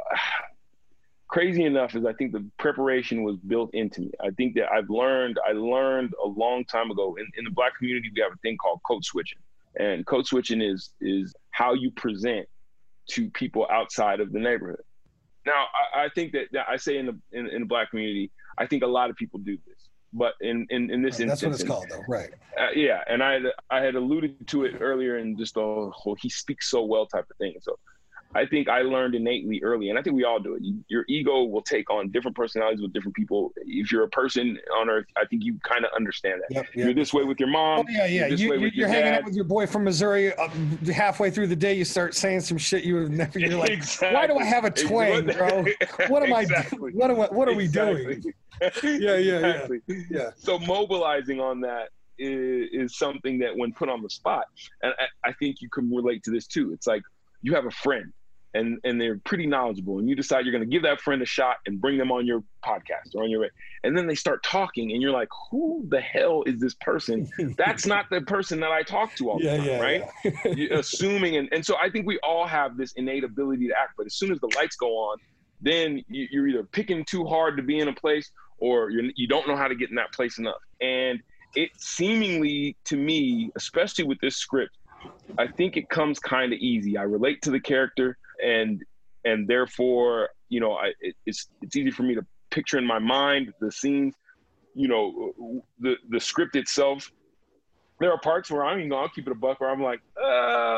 crazy enough is I think the preparation was built into me. I think that I've learned, I learned a long time ago in, in the Black community, we have a thing called code switching. And code switching is, is how you present to people outside of the neighborhood. Now, I, I think that, that I say in the, in, in the Black community, I think a lot of people do this. But in, in, in this
oh, that's
instance,
what it's called, though, right?
Uh, yeah, and I I had alluded to it earlier in just the whole "he speaks so well" type of thing. So I think I learned innately early, and I think we all do it. You, your ego will take on different personalities with different people. If you're a person on Earth, I think you kind of understand that. Yep, yep. You're this way with your mom.
Oh, yeah, yeah.
You're,
you, you're, you're hanging
dad.
out with your boy from Missouri. Uh, halfway through the day, you start saying some shit you would have never. You're like,
exactly.
why do I have a twang, bro? What am
exactly.
I? What am I? What are
exactly.
we doing? yeah, yeah,
exactly.
yeah, yeah.
So mobilizing on that is, is something that, when put on the spot, and I, I think you can relate to this too. It's like you have a friend, and and they're pretty knowledgeable, and you decide you're going to give that friend a shot and bring them on your podcast or on your, and then they start talking, and you're like, who the hell is this person? That's not the person that I talk to all the
yeah,
time,
yeah,
right?
Yeah.
You're assuming, and, and so I think we all have this innate ability to act, but as soon as the lights go on, then you, you're either picking too hard to be in a place, or you're, you don't know how to get in that place enough. And it seemingly, to me, especially with this script, I think it comes kind of easy. I relate to the character, and and therefore, you know, I, it, it's it's easy for me to picture in my mind the scenes. You know, the the script itself. There are parts where I'm, you know, I'll keep it a buck, where I'm like, uh,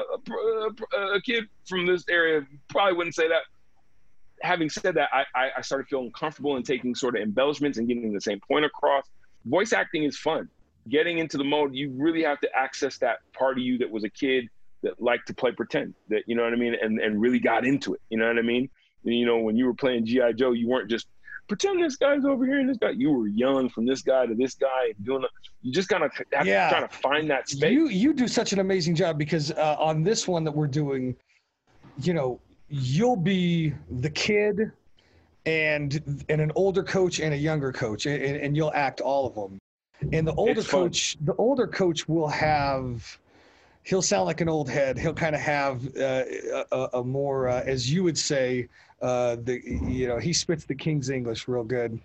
a, a kid from this area probably wouldn't say that. Having said that, I, I started feeling comfortable in taking sort of embellishments and getting the same point across. Voice acting is fun. Getting into the mode, you really have to access that part of you that was a kid that liked to play pretend, that, you know what I mean, and, and really got into it, you know what I mean? And, you know, when you were playing G I Joe, you weren't just, pretend this guy's over here and this guy. You were yelling from this guy to this guy, doing. A, you just kind of have
yeah.
to try to find that space.
You, you do such an amazing job, because uh, on this one that we're doing, you know, you'll be the kid and and an older coach and a younger coach, and, and you'll act all of them. And the older coach, the older coach will have, he'll sound like an old head. He'll kind of have uh, a, a more, uh, as you would say, uh, the you know, he spits the King's English real good.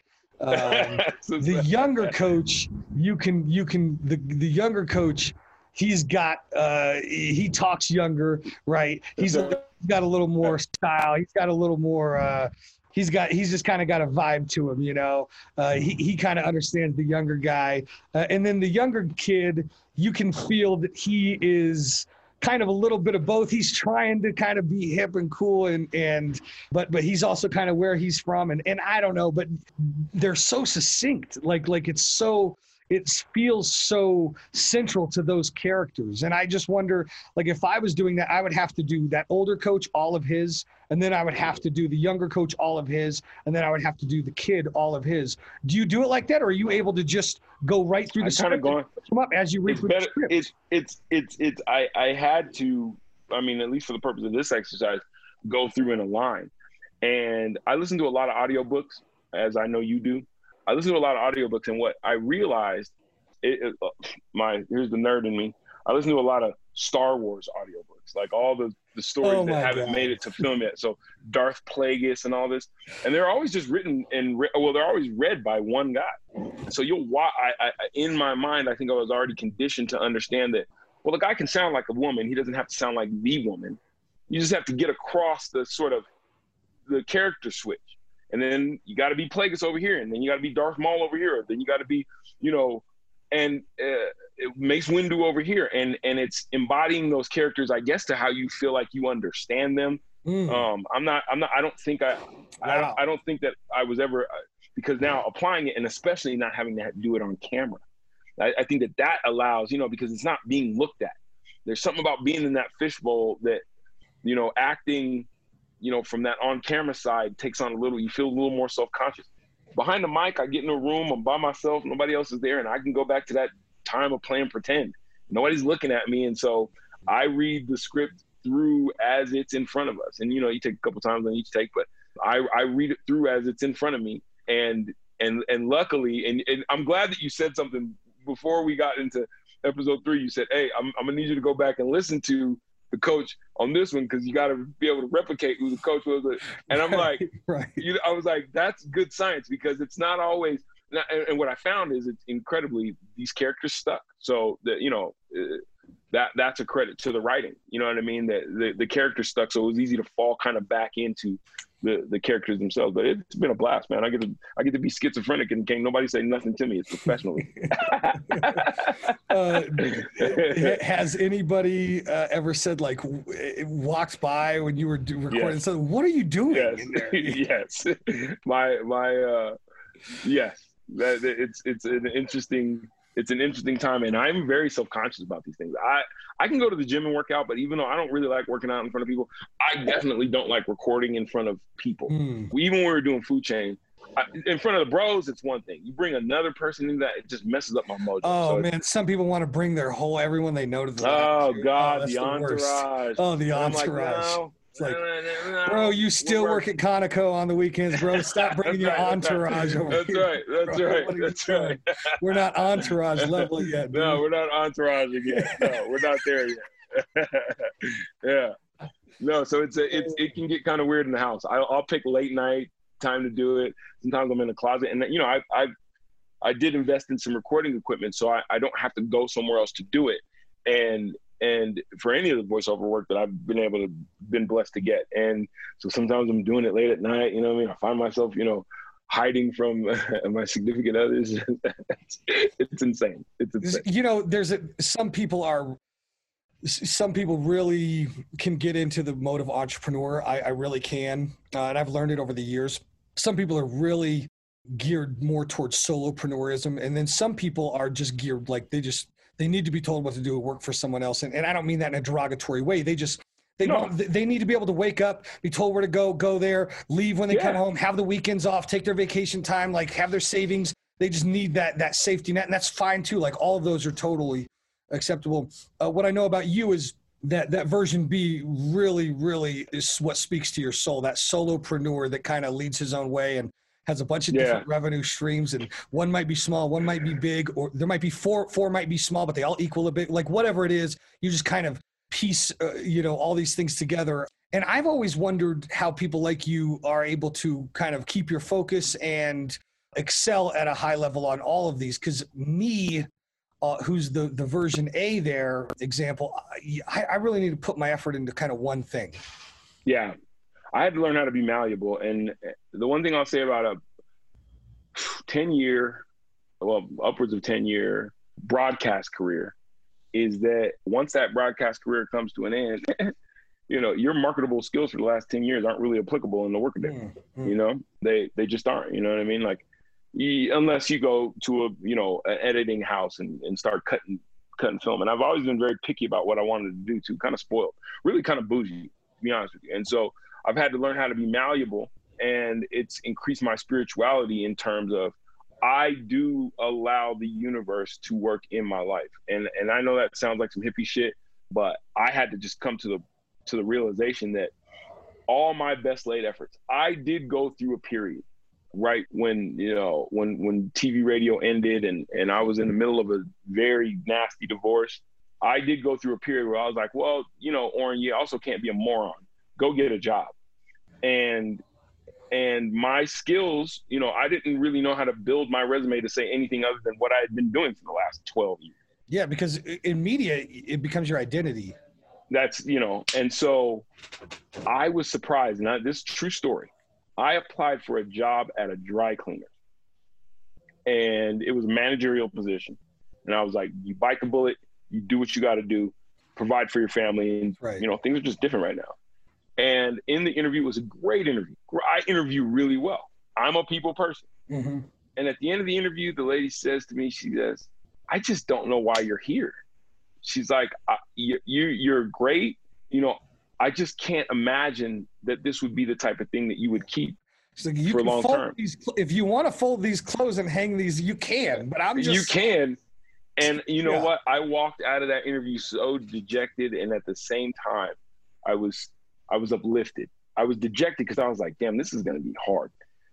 Um, the younger coach, you can you can the the younger coach. He's got, uh, he talks younger, right? He's got a little more style. He's got a little more, uh, he's got, he's just kind of got a vibe to him, you know? Uh, he he kind of understands the younger guy. Uh, and then the younger kid, you can feel that he is kind of a little bit of both. He's trying to kind of be hip and cool, and, and but but he's also kind of where he's from. And, and I don't know, but they're so succinct. Like, like it's so, it feels so central to those characters. And I just wonder, like, if I was doing that, I would have to do that older coach, all of his, and then I would have to do the younger coach, all of his, and then I would have to do the kid, all of his. Do you do it like that, or are you able to just go right through the script and come up as you read through the script?
It's, it's, it's, it's, I, I had to, I mean, at least for the purpose of this exercise, go through in a line. And I listen to a lot of audiobooks, as I know you do. I listen to a lot of audiobooks, and what I realized, it, it, uh, my here's the nerd in me. I listen to a lot of Star Wars audiobooks, like all the, the stories
oh
that haven't
God.
made it to film yet. So Darth Plagueis and all this, and they're always just written and re- well, they're always read by one guy. So you'll watch. I, I, in my mind, I think I was already conditioned to understand that. Well, the guy can sound like a woman. He doesn't have to sound like the woman. You just have to get across the sort of the character switch. And then you got to be Plagueis over here, and then you got to be Darth Maul over here. Then you got to be, you know, and uh, Mace Windu over here, and and it's embodying those characters, I guess, to how you feel like you understand them. Mm. Um, I'm not, I'm not, I don't think I, wow. I, don't, I don't think that I was ever, because now applying it, and especially not having to do it on camera, I, I think that that allows, you know, because it's not being looked at. There's something about being in that fishbowl that, you know, acting, you know, from that on-camera side takes on a little, you feel a little more self-conscious. Behind the mic, I get in a room, I'm by myself, nobody else is there, and I can go back to that time of playing pretend. Nobody's looking at me, and so I read the script through as it's in front of us. And, you know, you take a couple times on each take, but I, I read it through as it's in front of me. And And and luckily, and, and I'm glad that you said something before we got into episode three. You said, hey, I'm, I'm going to need you to go back and listen to the coach on this one because you got to be able to replicate who the coach was. And I'm like,
right.
you know, I was like, that's good science because it's not always – and, and what I found is it's incredibly – these characters stuck. So, that you know, uh, that that's a credit to the writing. You know what I mean? That the, the characters stuck, so it was easy to fall kind of back into – the the characters themselves. But it's been a blast, man. I get to I get to be schizophrenic and can't nobody say nothing to me. It's professionally.
uh, has anybody uh, ever said like w- walked by when you were do- recording?
Yes.
So what are you doing?
Yes,
in there?
yes. My my uh, yes. That it's it's an interesting. It's an interesting time, and I'm very self-conscious about these things. I, I can go to the gym and work out, but even though I don't really like working out in front of people, I definitely don't like recording in front of people. Mm. Even when we were doing Food Chain, I, in front of the bros, it's one thing. You bring another person into that, it just messes up my mojo.
Oh,
so
man, some people want to bring their whole, everyone they know to the
Oh,
lab.
God,
oh,
the,
the
entourage.
Worst. Oh, the
and
entourage.
I'm like, no.
It's like, bro, you still work at Conoco on the weekends, bro. Stop bringing your
right,
entourage
that's
over
that's
here.
Right, that's
bro.
right. That's
doing?
right.
We're not entourage level yet. Dude.
No, we're not entourage yet. No, we're not there yet. Yeah. No, so it's a, it's it can get kind of weird in the house. I, I'll pick late night time to do it. Sometimes I'm in the closet, and you know, I I I did invest in some recording equipment, so I, I don't have to go somewhere else to do it. And And for any of the voiceover work that I've been able to, been blessed to get. And so sometimes I'm doing it late at night, you know what I mean? I find myself, you know, hiding from my significant others. it's, it's insane. It's insane.
You know, there's a, some people are, some people really can get into the mode of entrepreneur. I, I really can. Uh, and I've learned it over the years. Some people are really geared more towards solopreneurism. And then some people are just geared, like they just, they need to be told what to do and work for someone else. And, and I don't mean that in a derogatory way. They just, they
no.
don't, they need to be able to wake up, be told where to go, go there, leave when they yeah. come home, have the weekends off, take their vacation time, like have their savings. They just need that, that safety net. And that's fine too. Like all of those are totally acceptable. Uh, what I know about you is that, that version B really, really is what speaks to your soul. That solopreneur that kind of leads his own way and has a bunch of
yeah.
different revenue streams, and one might be small, one might be big, or there might be four, four might be small, but they all equal a bit. Like whatever it is, you just kind of piece, uh, you know, all these things together. And I've always wondered how people like you are able to kind of keep your focus and excel at a high level on all of these. Because me, uh, who's the the version A there example, I, I really need to put my effort into kind of one thing.
Yeah. I had to learn how to be malleable. And the one thing I'll say about a ten year, well, upwards of ten year broadcast career is that once that broadcast career comes to an end, you know, your marketable skills for the last ten years aren't really applicable in the workaday. Mm-hmm. You know, they, they just aren't, you know what I mean? Like you, unless you go to a, you know, an editing house and, and start cutting, cutting film. And I've always been very picky about what I wanted to do too, kind of spoiled, really kind of bougie, to be honest with you. And so I've had to learn how to be malleable, and it's increased my spirituality in terms of I do allow the universe to work in my life. And and I know that sounds like some hippie shit, but I had to just come to the to the realization that all my best laid efforts, I did go through a period right when, you know, when when T V radio ended and, and I was in the middle of a very nasty divorce. I did go through a period where I was like, well, you know, Oren, you also can't be a moron. Go get a job. And and my skills, you know, I didn't really know how to build my resume to say anything other than what I had been doing for the last twelve years.
Yeah, because in media, it becomes your identity.
That's, you know, and so I was surprised. Now, this is a true story. I applied for a job at a dry cleaner, and it was a managerial position. And I was like, you bite the bullet, you do what you got to do, provide for your family. And, right. you know, things are just different right now. And in the interview, it was a great interview. I interview really well. I'm a people person. Mm-hmm. And at the end of the interview, the lady says to me, she says, I just don't know why you're here. She's like, you, you, you're great. You know, I just can't imagine that this would be the type of thing that you would keep
like, you
for long term.
These, if you want to fold these clothes and hang these, you can, but I'm just.
You can. And you know
yeah.
what? I walked out of that interview so dejected. And at the same time, I was, I was uplifted. I was dejected because I was like, damn, this is going to be hard.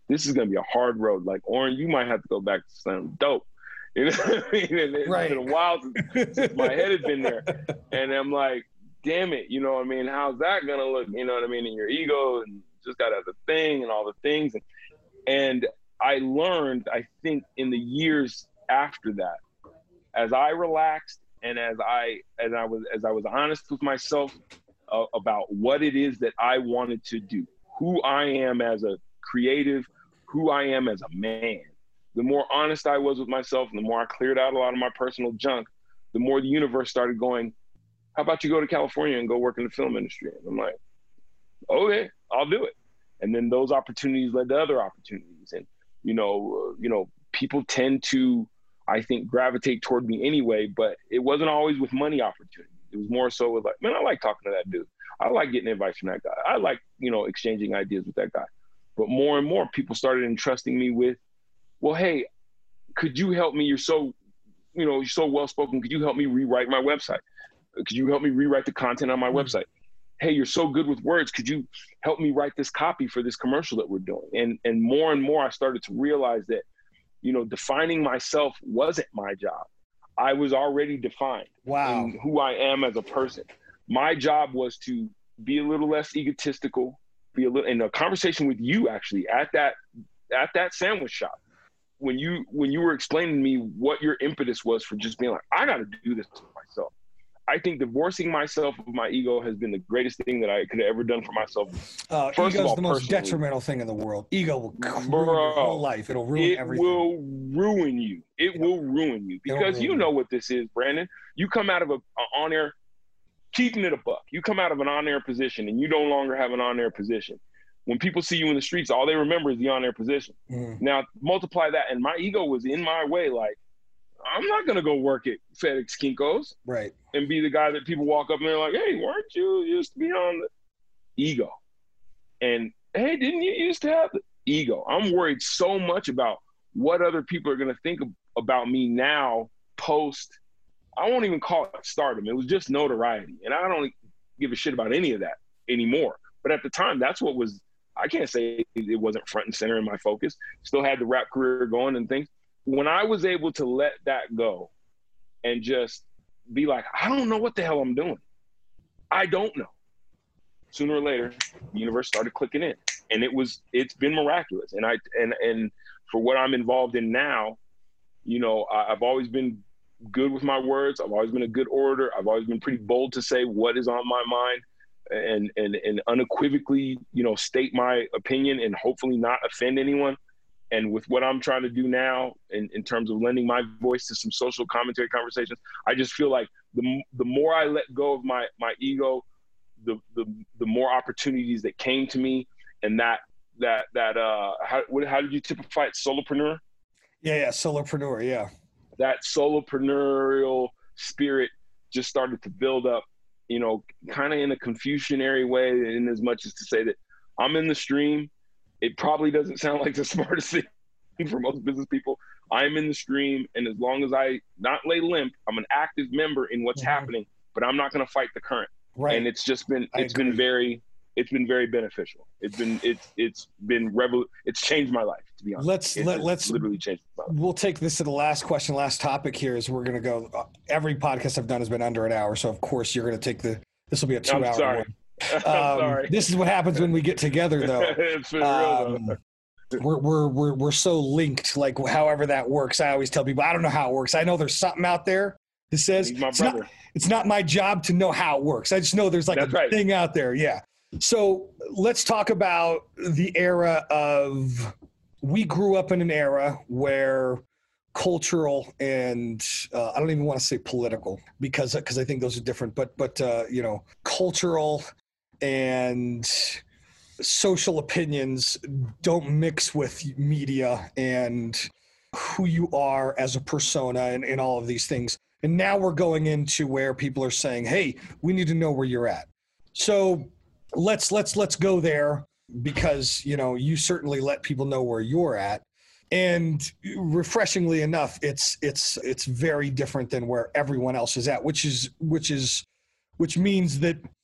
this is going to be a hard road. Like, Oren, you might have to go back to some dope. You know what I mean? And it's
Right.
been a while since, since my head had been there. And I'm like, damn it, you know what I mean? How's that going to look? You know what I mean? In your ego, and just got out the thing and all the things. And, and I learned, I think, in the years after that, as I relaxed and as I as I was as I was honest with myself uh, about what it is that I wanted to do, who I am as a creative, who I am as a man. The more honest I was with myself, and the more I cleared out a lot of my personal junk, the more the universe started going, how about you go to California and go work in the film industry? And I'm like, okay, I'll do it. And then those opportunities led to other opportunities. And, you know, uh, you know, people tend to, I think, gravitate toward me anyway, but it wasn't always with money opportunities. It was more so with like, man, I like talking to that dude. I like getting advice from that guy. I like, you know, exchanging ideas with that guy. But more and more people started entrusting me with, well, hey, could you help me? You're so, you know, you're so well-spoken. Could you help me rewrite my website? Could you help me rewrite the content on my
Mm-hmm.
website? Hey, you're so good with words. Could you help me write this copy for this commercial that we're doing? And and more and more, I started to realize that, you know, defining myself wasn't my job. I was already defined
Wow.
in who I am as a person. My job was to be a little less egotistical, be a little in a conversation with you actually at that at that sandwich shop. When you when you were explaining to me what your impetus was for just being like, I got to do this for myself. I think divorcing myself of my ego has been the greatest thing that I could have ever done for myself.
Uh,
First of
ego's
all,
the most
personally.
detrimental thing in the world. Ego will ruin
Bro,
your whole life. It'll ruin
It
everything.
will ruin you. It will ruin you
It'll
because
ruin
you
you.
know what this is, Brandon. You come out of a, a on-air, keeping it a buck. You come out of an on-air position and you no longer have an on-air position. When people see you in the streets, all they remember is the on-air position.
Mhm.
Now, multiply that, and my ego was in my way. Like, I'm not going to go work at FedEx Kinko's
Right.
and be the guy that people walk up and they're like, hey, weren't you used to be on the ego? And, hey, didn't you used to have the ego? I'm worried so much about what other people are going to think of, about me now post. I won't even call it stardom. It was just notoriety. And I don't give a shit about any of that anymore. But at the time, that's what was, I can't say it wasn't front and center in my focus. Still had the rap career going and things. When I was able to let that go and just be like, I don't know what the hell I'm doing. I don't know. Sooner or later, the universe started clicking in, and it was, it's been miraculous. And I, and, and for what I'm involved in now, you know, I, I've always been good with my words. I've always been a good orator. I've always been pretty bold to say what is on my mind and, and, and unequivocally, you know, state my opinion and hopefully not offend anyone. And with what I'm trying to do now in, in terms of lending my voice to some social commentary conversations, I just feel like the the more I let go of my my ego, the the the more opportunities that came to me, and that that that uh how what, how did you typify it? Solopreneur?
Yeah, yeah, solopreneur, yeah.
That solopreneurial spirit just started to build up, you know, kind of in a Confucianary way, in as much as to say that I'm in the stream. It probably doesn't sound like the smartest thing for most business people. I'm in the stream, and as long as I not lay limp, I'm an active member in what's
Mhm.
happening, but I'm not going to fight the current.
Right.
And it's just been,
I
it's been
agree.
very, it's been very beneficial. It's been, it's, it's been revol. It's changed my life, to be honest.
Let's
It
let,
has
let's
literally changed my life.
we'll take this to the last question, last topic here is we're going to go. Uh, every podcast I've done has been under an hour, so of course you're going to take the. This will be a
I'm
two-hour
sorry.
one.
I'm
Um,
sorry.
This is what happens when we get together, though.
It's been real, though.
Um, we're, we're we're we're so linked, like however that works. I always tell people I don't know how it works. I know there's something out there that says
He's my
it's not,
brother.
it's not my job to know how it works. I just know there's like
That's
a
right.
thing out there. Yeah. So let's talk about the era of. We grew up in an era where cultural and uh, I don't even want to say political because because I think those are different. But but uh, you know, cultural and social opinions don't mix with media and who you are as a persona and, and all of these things. And now we're going into where people are saying, hey, we need to know where you're at. So let's let's let's go there because, you know, you certainly let people know where you're at. And refreshingly enough, it's it's it's very different than where everyone else is at, which is which is which means that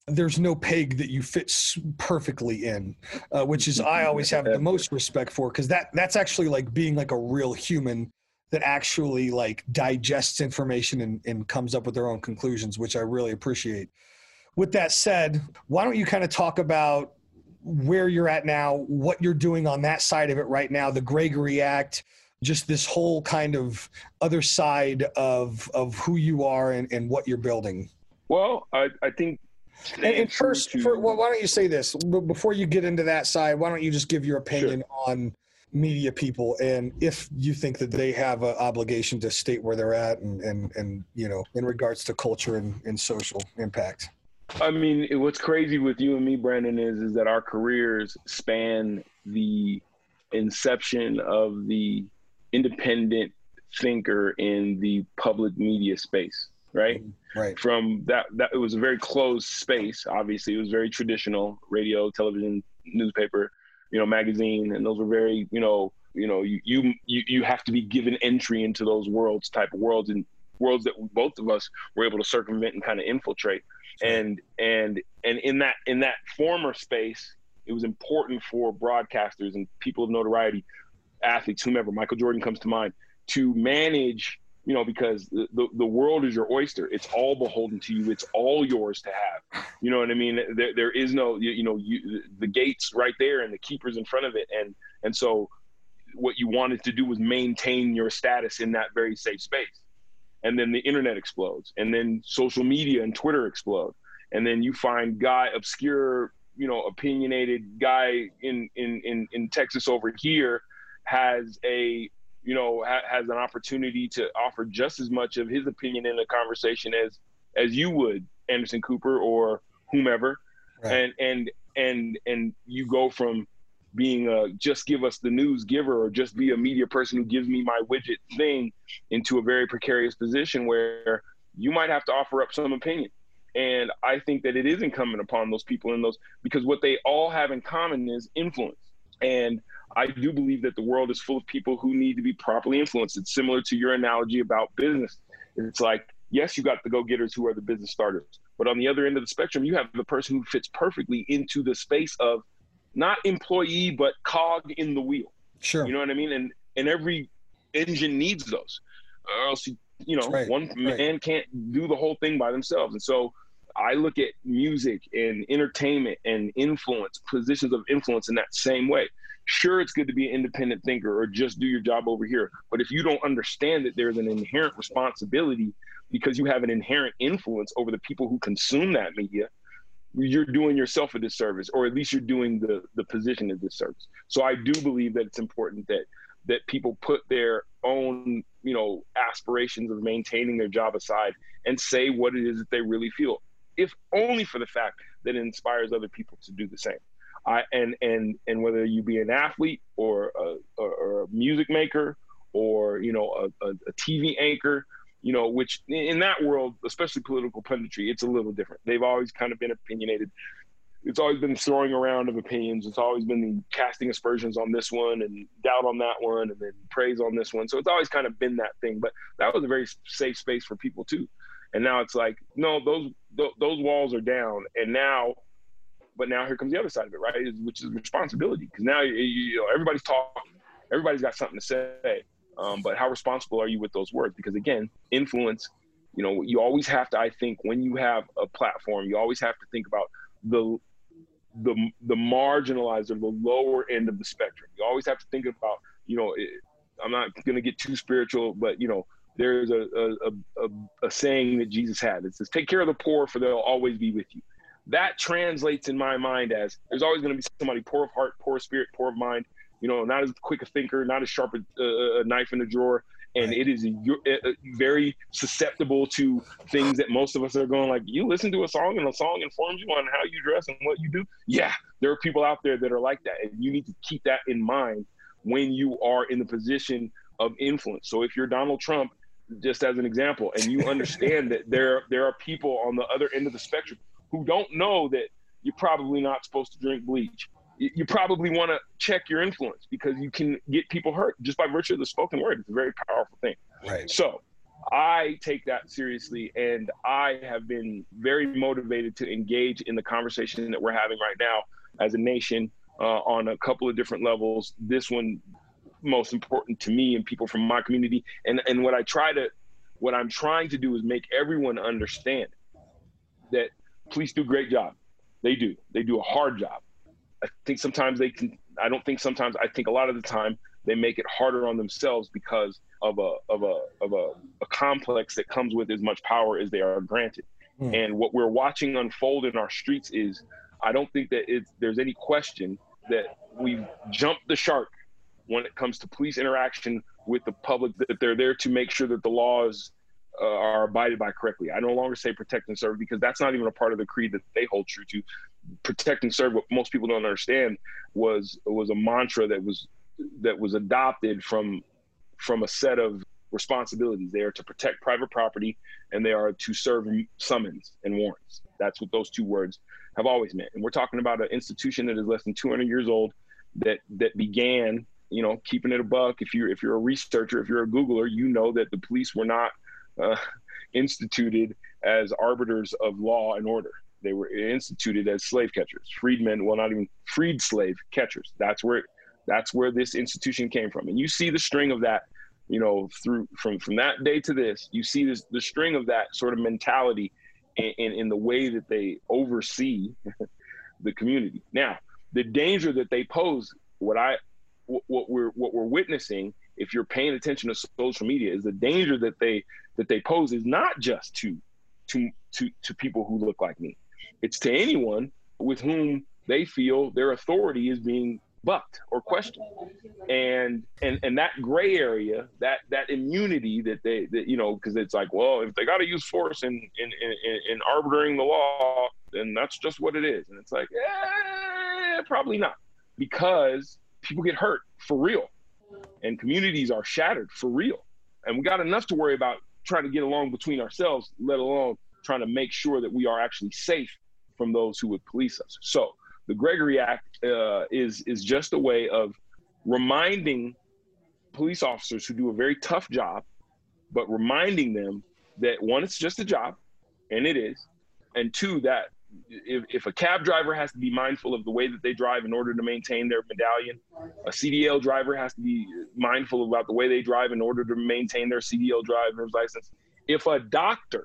there's no peg that you fit perfectly in, uh, which is I always have the most respect for, because that that's actually like being like a real human that actually like digests information and, and comes up with their own conclusions, which I really appreciate. With that said, why don't you kind of talk about where you're at now, what you're doing on that side of it right now, the Gregory Act, just this whole kind of other side of of who you are and, and what you're building.
Well, I, I think.
And, and first, to, for, well, why don't you say this before you get into that side? Why don't you just give your opinion sure. on media people, and if you think that they have an obligation to state where they're at, and and, and you know, in regards to culture and, and social impact.
I mean, what's crazy with you and me, Brandon, is is that our careers span the inception of the independent thinker in the public media space, right?
Right.
From that, that it was a very closed space. Obviously, it was very traditional: radio, television, newspaper, you know, magazine, and those were very, you know, you know, you you you you have to be given entry into those worlds, type of worlds, and worlds that both of us were able to circumvent and kind of infiltrate. And and and in that in that former space, it was important for broadcasters and people of notoriety, athletes, whomever, Michael Jordan comes to mind, to manage, you know, because the, the, the world is your oyster. It's all beholden to you. It's all yours to have. You know what I mean? There, there is no, you, you know, you, the gates right there and the keepers in front of it. And, and so what you wanted to do was maintain your status in that very safe space. And then the internet explodes, and then social media and Twitter explode. And then you find guy, obscure, you know, opinionated guy in, in, in, in Texas over here has a, you know, ha- has an opportunity to offer just as much of his opinion in a conversation as, as you would, Anderson Cooper or whomever. Right. And, and, and, and you go from being a just give us the news giver or just be a media person who gives me my widget thing into a very precarious position where you might have to offer up some opinion. And I think that it is incumbent upon those people in those, because what they all have in common is influence. And I do believe that the world is full of people who need to be properly influenced. It's similar to your analogy about business. It's like, yes, you got the go-getters who are the business starters, but on the other end of the spectrum, you have the person who fits perfectly into the space of not employee, but cog in the wheel.
Sure.
You know what I mean? And and every engine needs those, or else, you, you know,
right.
one right. man can't do the whole thing by themselves. And so I look at music and entertainment and influence, positions of influence in that same way. Sure, it's good to be an independent thinker or just do your job over here. But if you don't understand that there's an inherent responsibility because you have an inherent influence over the people who consume that media, you're doing yourself a disservice, or at least you're doing the, the position a disservice. So I do believe that it's important that that people put their own, you know, aspirations of maintaining their job aside and say what it is that they really feel, if only for the fact that it inspires other people to do the same. I and and and whether you be an athlete or a, or, or a music maker or, you know, a, a, a T V anchor, you know, which in that world, especially political punditry, it's a little different. They've always kind of been opinionated. It's always been throwing around of opinions. It's always been casting aspersions on this one and doubt on that one and then praise on this one. So it's always kind of been that thing. But that was a very safe space for people too. And now it's like, no, those those walls are down. And now, but now here comes the other side of it, right? Which is responsibility. Because now you, you know, everybody's talking, everybody's got something to say. Um, but how responsible are you with those words? Because again, influence, you know, you always have to, I think, when you have a platform, you always have to think about the the the marginalized or the lower end of the spectrum. You always have to think about, you know, it, I'm not going to get too spiritual, but, you know, there's a a, a a saying that Jesus had. It says, take care of the poor, for they'll always be with you. That translates in my mind as there's always going to be somebody poor of heart, poor of spirit, poor of mind, you know, not as quick a thinker, not as sharp a, a knife in the drawer. And right. it is a, a, a very susceptible to things that most of us are going like, you listen to a song and a song informs you on how you dress and what you do. Yeah, there are people out there that are like that. And you need to keep that in mind when you are in the position of influence. So if you're Donald Trump, just as an example, and you understand that there, there are people on the other end of the spectrum who don't know that you're probably not supposed to drink bleach. You probably want to check your influence because you can get people hurt just by virtue of the spoken word. It's a very powerful thing.
Right.
So I take that seriously, and I have been very motivated to engage in the conversation that we're having right now as a nation uh, on a couple of different levels. This one most important to me and people from my community. And, and what I try to, what I'm trying to do is make everyone understand that police do a great job. They do. They do a hard job. I think sometimes they can, I don't think sometimes, I think a lot of the time they make it harder on themselves because of a of a of a, a complex that comes with as much power as they are granted. Mm. And what we're watching unfold in our streets is, I don't think that it's, there's any question that we've jumped the shark when it comes to police interaction with the public, that they're there to make sure that the laws uh, are abided by correctly. I no longer say protect and serve, because that's not even a part of the creed that they hold true to. Protect and serve, what most people don't understand, was was a mantra that was that was adopted from from a set of responsibilities. They are to protect private property, and they are to serve summons and warrants. That's what those two words have always meant. And we're talking about an institution that is less than two hundred years old, that that began, you know, keeping it a buck. If you're if you're a researcher, if you're a Googler, you know that the police were not uh, instituted as arbiters of law and order. They were instituted as slave catchers, freedmen. Well, not even freed slave catchers. That's where that's where this institution came from. And you see the string of that, you know, through from from that day to this. You see this the string of that sort of mentality in, in, in the way that they oversee the community. Now, the danger that they pose, what I what we're what we're witnessing, if you're paying attention to social media, is the danger that they that they pose is not just to to to to people who look like me. It's to anyone with whom they feel their authority is being bucked or questioned. And and and that gray area, that that immunity that they that you know, because it's like, well, if they got to use force in in, in in arbitering the law, then that's just what it is. And it's like, eh, probably not, because people get hurt for real, and communities are shattered for real, and we got enough to worry about trying to get along between ourselves, let alone trying to make sure that we are actually safe from those who would police us. So the Gregory Act uh, is is just a way of reminding police officers who do a very tough job, but reminding them that, one, it's just a job, and it is, and two, that if, if a cab driver has to be mindful of the way that they drive in order to maintain their medallion, a C D L driver has to be mindful about the way they drive in order to maintain their C D L driver's license. If a doctor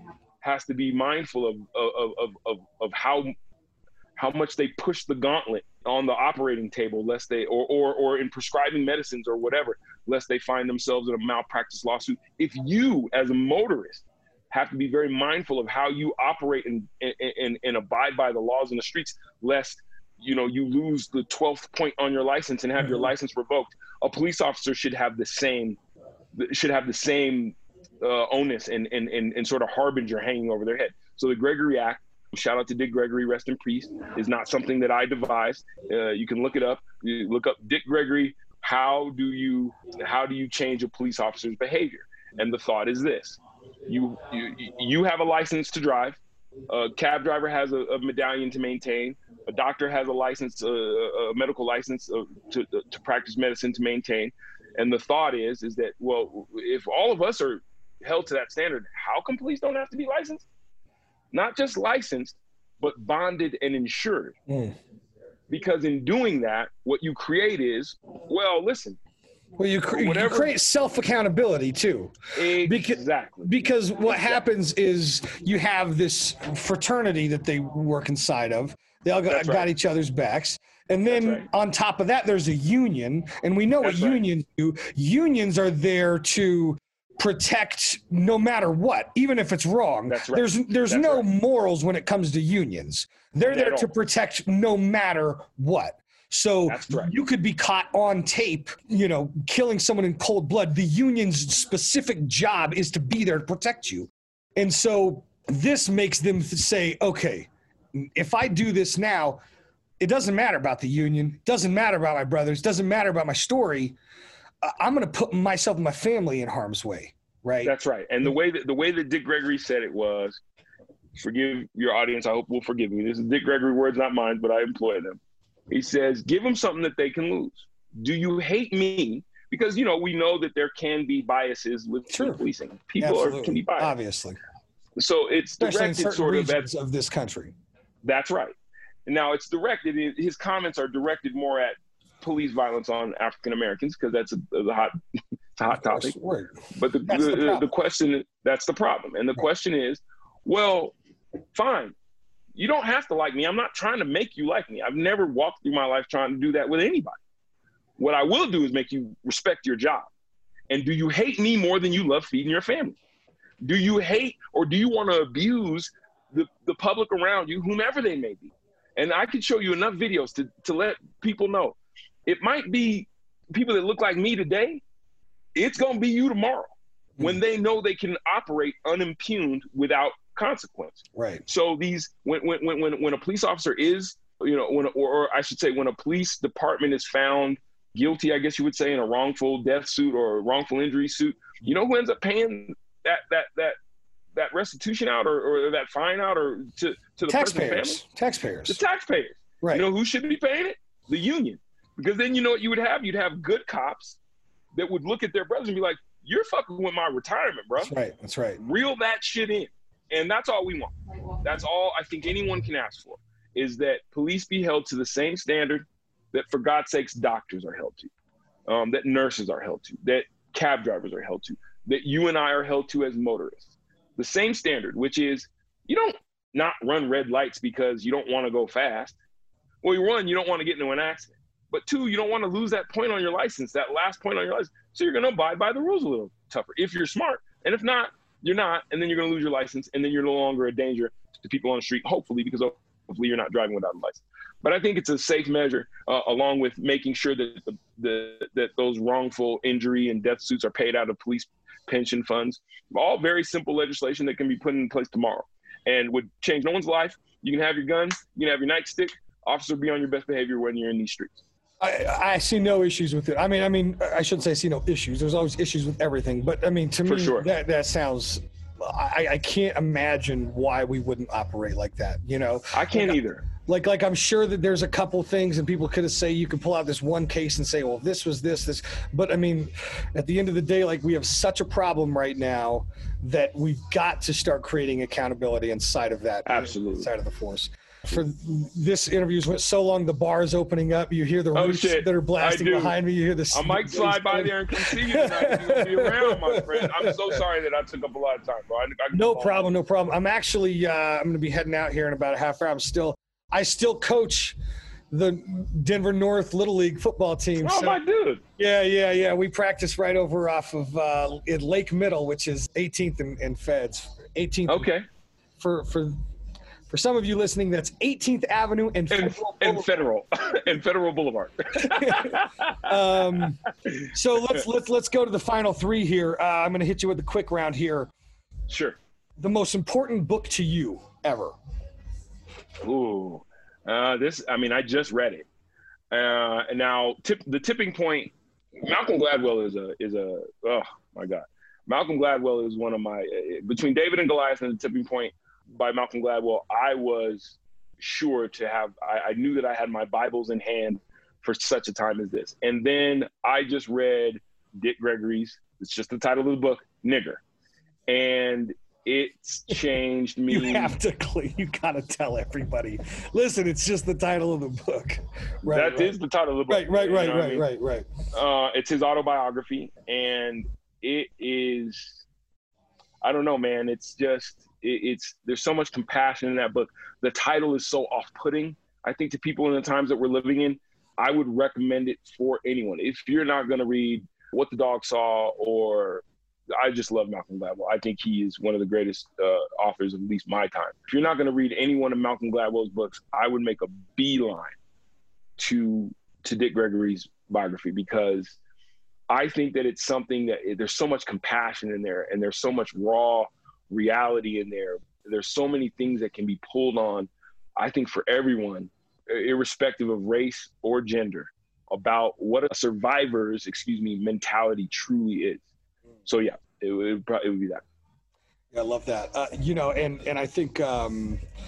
has to be mindful of of of of, of how how much they push the gauntlet on the operating table, lest they or or or in prescribing medicines or whatever, lest they find themselves in a malpractice lawsuit. If you, as a motorist, have to be very mindful of how you operate and, and, and abide by the laws in the streets, lest, you know, you lose the twelfth point on your license and have your license revoked. A police officer should have the same, should have the same uh, onus and, and, and, and sort of harbinger hanging over their head. So the Gregory Act, shout out to Dick Gregory, rest in peace, is not something that I devised. Uh, you can look it up. You look up Dick Gregory. How do you, how do you change a police officer's behavior? And the thought is this. You, you you have a license to drive. A cab driver has a, a medallion to maintain. A doctor has a license, a, a medical license uh, to to practice medicine to maintain. And the thought is is that, well, if all of us are held to that standard, how come police don't have to be licensed? Not just licensed, but bonded and insured. Mm. Because in doing that, what you create is, well, listen.
Well, you, cre- you create self-accountability too.
Exactly.
Because, because what
exactly.
happens is you have this fraternity that they work inside of. They all got, got right. each other's backs. And then right. on top of that, there's a union. And we know That's what right. unions do. Unions are there to protect no matter what, even if it's wrong.
That's right.
There's there's
That's
no
right.
morals when it comes to unions. They're there to protect no matter what. So right. you could be caught on tape, you know, killing someone in cold blood. The union's specific job is to be there to protect you. And so this makes them say, okay, if I do this now, it doesn't matter about the union, doesn't matter about my brothers, doesn't matter about my story. I'm going to put myself and my family in harm's way, right?
That's right. And the way that the way that Dick Gregory said it was, forgive your audience, I hope will forgive me. This is Dick Gregory words, not mine, but I employ them. He says, give them something that they can lose. Do you hate me because, you know, we know that there can be biases with
Sure.
policing. People are, can be biased.
Obviously.
So it's
Especially in
directed
certain
sort of at,
regions of this country.
that's right. Now it's directed, his comments are directed more at police violence on African Americans, because that's a, a hot, it's a hot topic.
Right.
But the,
That's
the,
the
the,
problem.
the question, that's the problem. And the
Right.
question is, well, fine. You don't have to like me. I'm not trying to make you like me. I've never walked through my life trying to do that with anybody. What I will do is make you respect your job. And do you hate me more than you love feeding your family? Do you hate, or do you want to abuse the, the public around you, whomever they may be? And I can show you enough videos to, to let people know. It might be people that look like me today. It's going to be you tomorrow, mm-hmm. when they know they can operate unimpugned without consequence.
Right.
So these, when when when when a police officer is, you know, when or, or I should say, when a police department is found guilty, I guess you would say, in a wrongful death suit or a wrongful injury suit, you know who ends up paying that that that that restitution out, or, or that fine out, or to to the person's family?
Taxpayers. Taxpayers.
The taxpayers.
Right.
You know who should be paying it? The union. Because then you know what you would have? You'd have good cops that would look at their brothers and be like, "You're fucking with my retirement, bro."
That's right. That's right.
Reel that shit in. And that's all we want. That's all I think anyone can ask for, is that police be held to the same standard that, for God's sakes, doctors are held to, um, that nurses are held to, that cab drivers are held to, that you and I are held to as motorists. The same standard, which is, you don't not run red lights because you don't want to go fast. Well, you run, you don't want to get into an accident. But two, you don't want to lose that point on your license, that last point on your license. So you're going to abide by the rules a little tougher if you're smart. And if not, you're not, and then you're going to lose your license, and then you're no longer a danger to people on the street, hopefully, because hopefully you're not driving without a license. But I think it's a safe measure, uh, along with making sure that the, the that those wrongful injury and death suits are paid out of police pension funds. All very simple legislation that can be put in place tomorrow and would change no one's life. You can have your gun, you can have your nightstick. Officer, be on your best behavior when you're in these streets.
I, I see no issues with it. I mean, I mean, I shouldn't say I see no issues. There's always issues with everything. But I mean, to
For
me,
sure.
that that sounds. I, I can't imagine why we wouldn't operate like that. You know,
I can't
like,
either.
Like, like I'm sure that there's a couple things, and people could have say you could pull out this one case and say, well, this was this, this. But I mean, at the end of the day, like, we have such a problem right now that we've got to start creating accountability inside of that.
Absolutely.
Inside of the force. For this interview's went so long, the bar is opening up. You hear the
Oh,
roofs
shit.
that are blasting
I do.
behind me. You hear the.
I might slide by there and come see you tonight. You're gonna be around, my friend. I'm so sorry that I took up a lot of time, bro. I, I
No problem, no problem. I'm actually, uh, I'm going to be heading out here in about a half hour. I'm still, I still coach the Denver North Little League football team.
Oh,
so,
my dude.
yeah, yeah, yeah. We practice right over off of uh, in Lake Middle, which is eighteenth and, and Feds. eighteenth.
Okay.
For for for some of you listening, that's eighteenth Avenue and
And,
Federal
and Federal. and Federal Boulevard.
um, so let's let's let's go to the final three here. Uh, I'm going to hit you with a quick round here.
Sure.
The most important book to you ever.
Ooh. Uh, this, I mean, I just read it. Uh, and now tip, the tipping point, Malcolm Gladwell is a, is a, oh my God. Malcolm Gladwell is one of my, uh, between David and Goliath and the tipping point by Malcolm Gladwell, I was sure to have, I, I knew that I had my Bibles in hand for such a time as this. And then I just read Dick Gregory's, it's just the title of the book, Nigger. And it's changed me.
You have to, you gotta tell everybody. Listen, it's just the title of the book. Right,
That
right.
is the title of the book.
Right, right,
you
right,
know what I
right,
mean?
right, right.
Uh, it's his autobiography, and it is, I don't know, man. It's just, it, it's, there's so much compassion in that book. The title is so off-putting, I think, to people in the times that we're living in. I would recommend it for anyone. If you're not going to read What the Dog Saw, or I just love Malcolm Gladwell. I think he is one of the greatest uh, authors of at least my time. If you're not going to read any one of Malcolm Gladwell's books, I would make a beeline to to Dick Gregory's biography, because I think that it's something that there's so much compassion in there, and there's so much raw reality in there. There's so many things that can be pulled on, I think, for everyone, irrespective of race or gender, about what a survivor's, excuse me, mentality truly is. So yeah, it would probably it would be that.
Yeah, I love that. Uh, you know, and and I think um,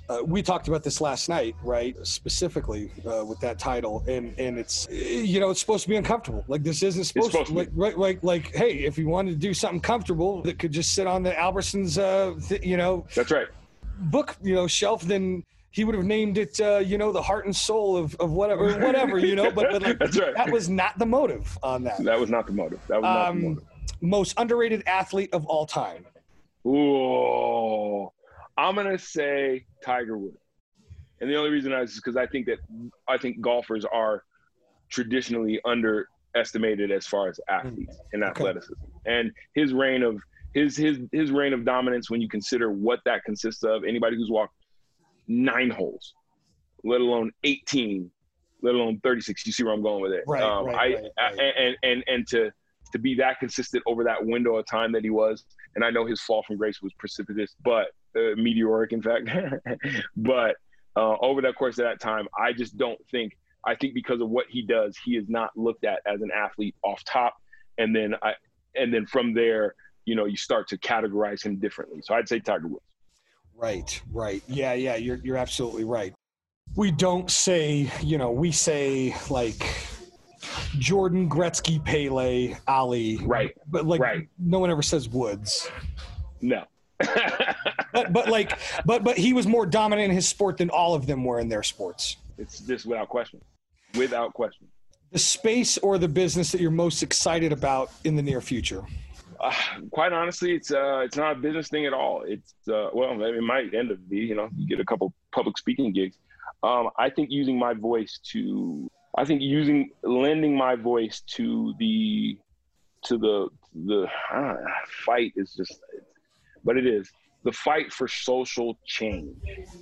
Uh, we talked about this last night, right? Specifically uh, with that title, and and it's you know it's supposed to be uncomfortable. Like this isn't supposed,
supposed
to,
to
like right, like like hey, if you wanted to do something comfortable that could just sit on the Albertsons, uh, th- you know,
That's right.
book you know shelf, then he would have named it, uh, you know, the heart and soul of, of whatever, or whatever, you know. But, but like,
That's right.
that was not the motive on that.
That was not the motive. That was not
Um,
the motive.
Most underrated athlete of all time.
Ooh, I'm gonna say Tiger Woods, and the only reason is because I think that I think golfers are traditionally underestimated as far as athletes and athleticism, and his reign of his his his reign of dominance. When you consider what that consists of, anybody who's walked nine holes, let alone eighteen, let alone thirty-six. You see where I'm going with it?
Right,
um,
right,
I,
right, right.
I and and and to to be that consistent over that window of time that he was, and I know his fall from grace was precipitous, but uh, meteoric, in fact. but uh, over the course of that time, I just don't think. I think because of what he does, he is not looked at as an athlete off top, and then I and then from there, you know, you start to categorize him differently. So I'd say Tiger Woods.
Right, right. Yeah, yeah, you're you're absolutely right. We don't say, you know, we say like Jordan, Gretzky, Pele, Ali.
Right.
But like
right.
no one ever says Woods.
No.
but but like but but he was more dominant in his sport than all of them were in their sports.
It's just without question. Without question.
The space or the business that you're most excited about in the near future?
Uh, quite honestly, it's uh, it's not a business thing at all. It's uh, well, it might end up be. You know, you get a couple public speaking gigs. Um, I think using my voice to, I think using lending my voice to the, to the the uh, fight is just, but it is the fight for social change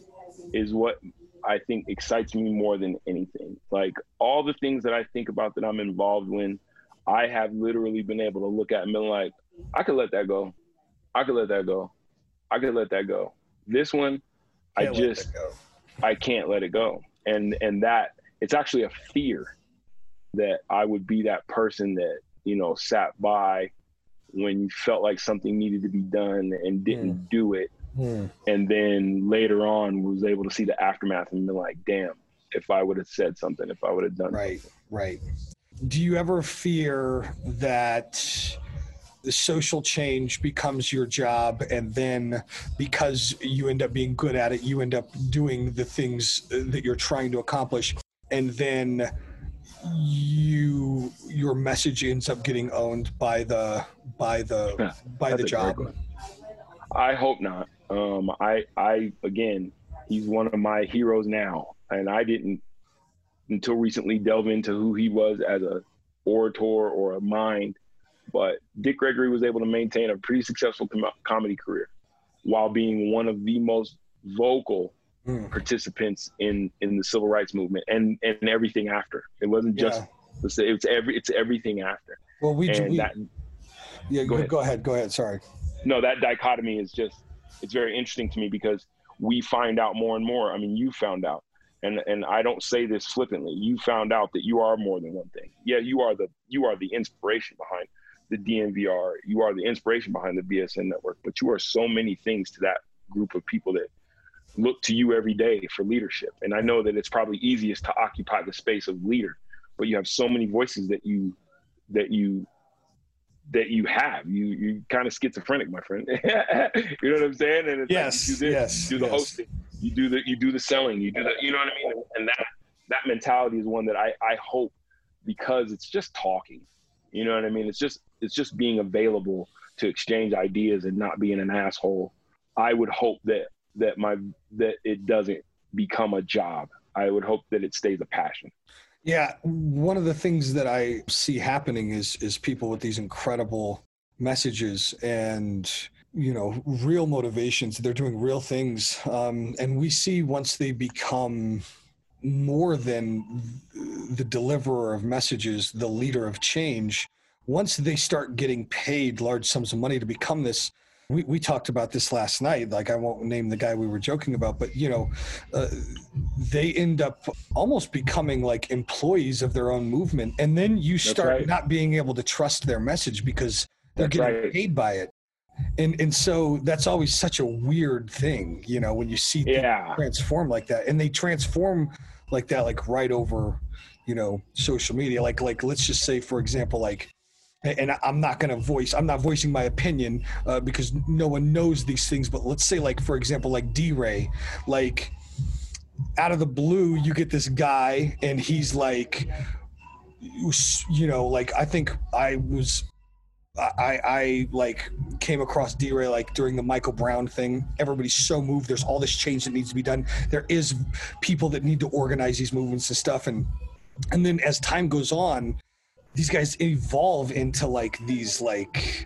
is what I think excites me more than anything. Like all the things that I think about that I'm involved in, I have literally been able to look at and be like, I could let that go. I could let that go. I could let that go. This one,
Can't
I just, I can't let it go. And, and that it's actually a fear that I would be that person that, you know, sat by when you felt like something needed to be done and didn't mm. do it. Mm. And then later on was able to see the aftermath and be like, damn, if I would have said something, if I would have done
right,
something.
Right. Do you ever fear that the social change becomes your job, and then because you end up being good at it, you end up doing the things that you're trying to accomplish, and then you your message ends up getting owned by the by the yeah, by the job?
I hope not. Um, I I again, he's one of my heroes now, and I didn't until recently delve into who he was as a orator or a mind. But Dick Gregory was able to maintain a pretty successful com- comedy career while being one of the most vocal mm. participants in, in the civil rights movement and, and everything after. It wasn't just, yeah. it's every, it's everything after.
Well, we,
and
we
that,
yeah,
go,
go
ahead.
go ahead, go ahead. Sorry.
No, that dichotomy is just, it's very interesting to me because we find out more and more. I mean, you found out. And and I don't say this flippantly. You found out that you are more than one thing. Yeah, you are the you are the inspiration behind the D N V R. You are the inspiration behind the B S N network. But you are so many things to that group of people that look to you every day for leadership. And I know that it's probably easiest to occupy the space of leader, but you have so many voices that you that you that you have. You you kind of schizophrenic, my friend. You know what I'm saying? And it's
yes,
like you do this,
yes,
you do the
yes.
hosting. You do the you do the selling, you do the you know what I mean? And that that mentality is one that I, I hope, because it's just talking. You know what I mean? It's just it's just being available to exchange ideas and not being an asshole. I would hope that that my that it doesn't become a job. I would hope that it stays a passion.
Yeah, one of the things that I see happening is is people with these incredible messages and you know, real motivations. They're doing real things. Um, and we see once they become more than the deliverer of messages, the leader of change, once they start getting paid large sums of money to become this, we, we talked about this last night. Like, I won't name the guy we were joking about, but you know, uh, they end up almost becoming like employees of their own movement. And then you start right. not being able to trust their message because they're
That's
getting
right.
paid by it. And and so that's always such a weird thing, you know, when you see people
Yeah.
transform like that, and they transform like that, like right over, you know, social media. Like like let's just say, for example, like, and I- I'm not going to voice, I'm not voicing my opinion uh, because no one knows these things. But let's say, like, for example, like D-Ray, like out of the blue, you get this guy and he's like, you know, like I think I was, I, I like came across D-Ray like during the Michael Brown thing. Everybody's so moved. There's all this change that needs to be done. There is people that need to organize these movements and stuff. And, and then as time goes on, these guys evolve into like these like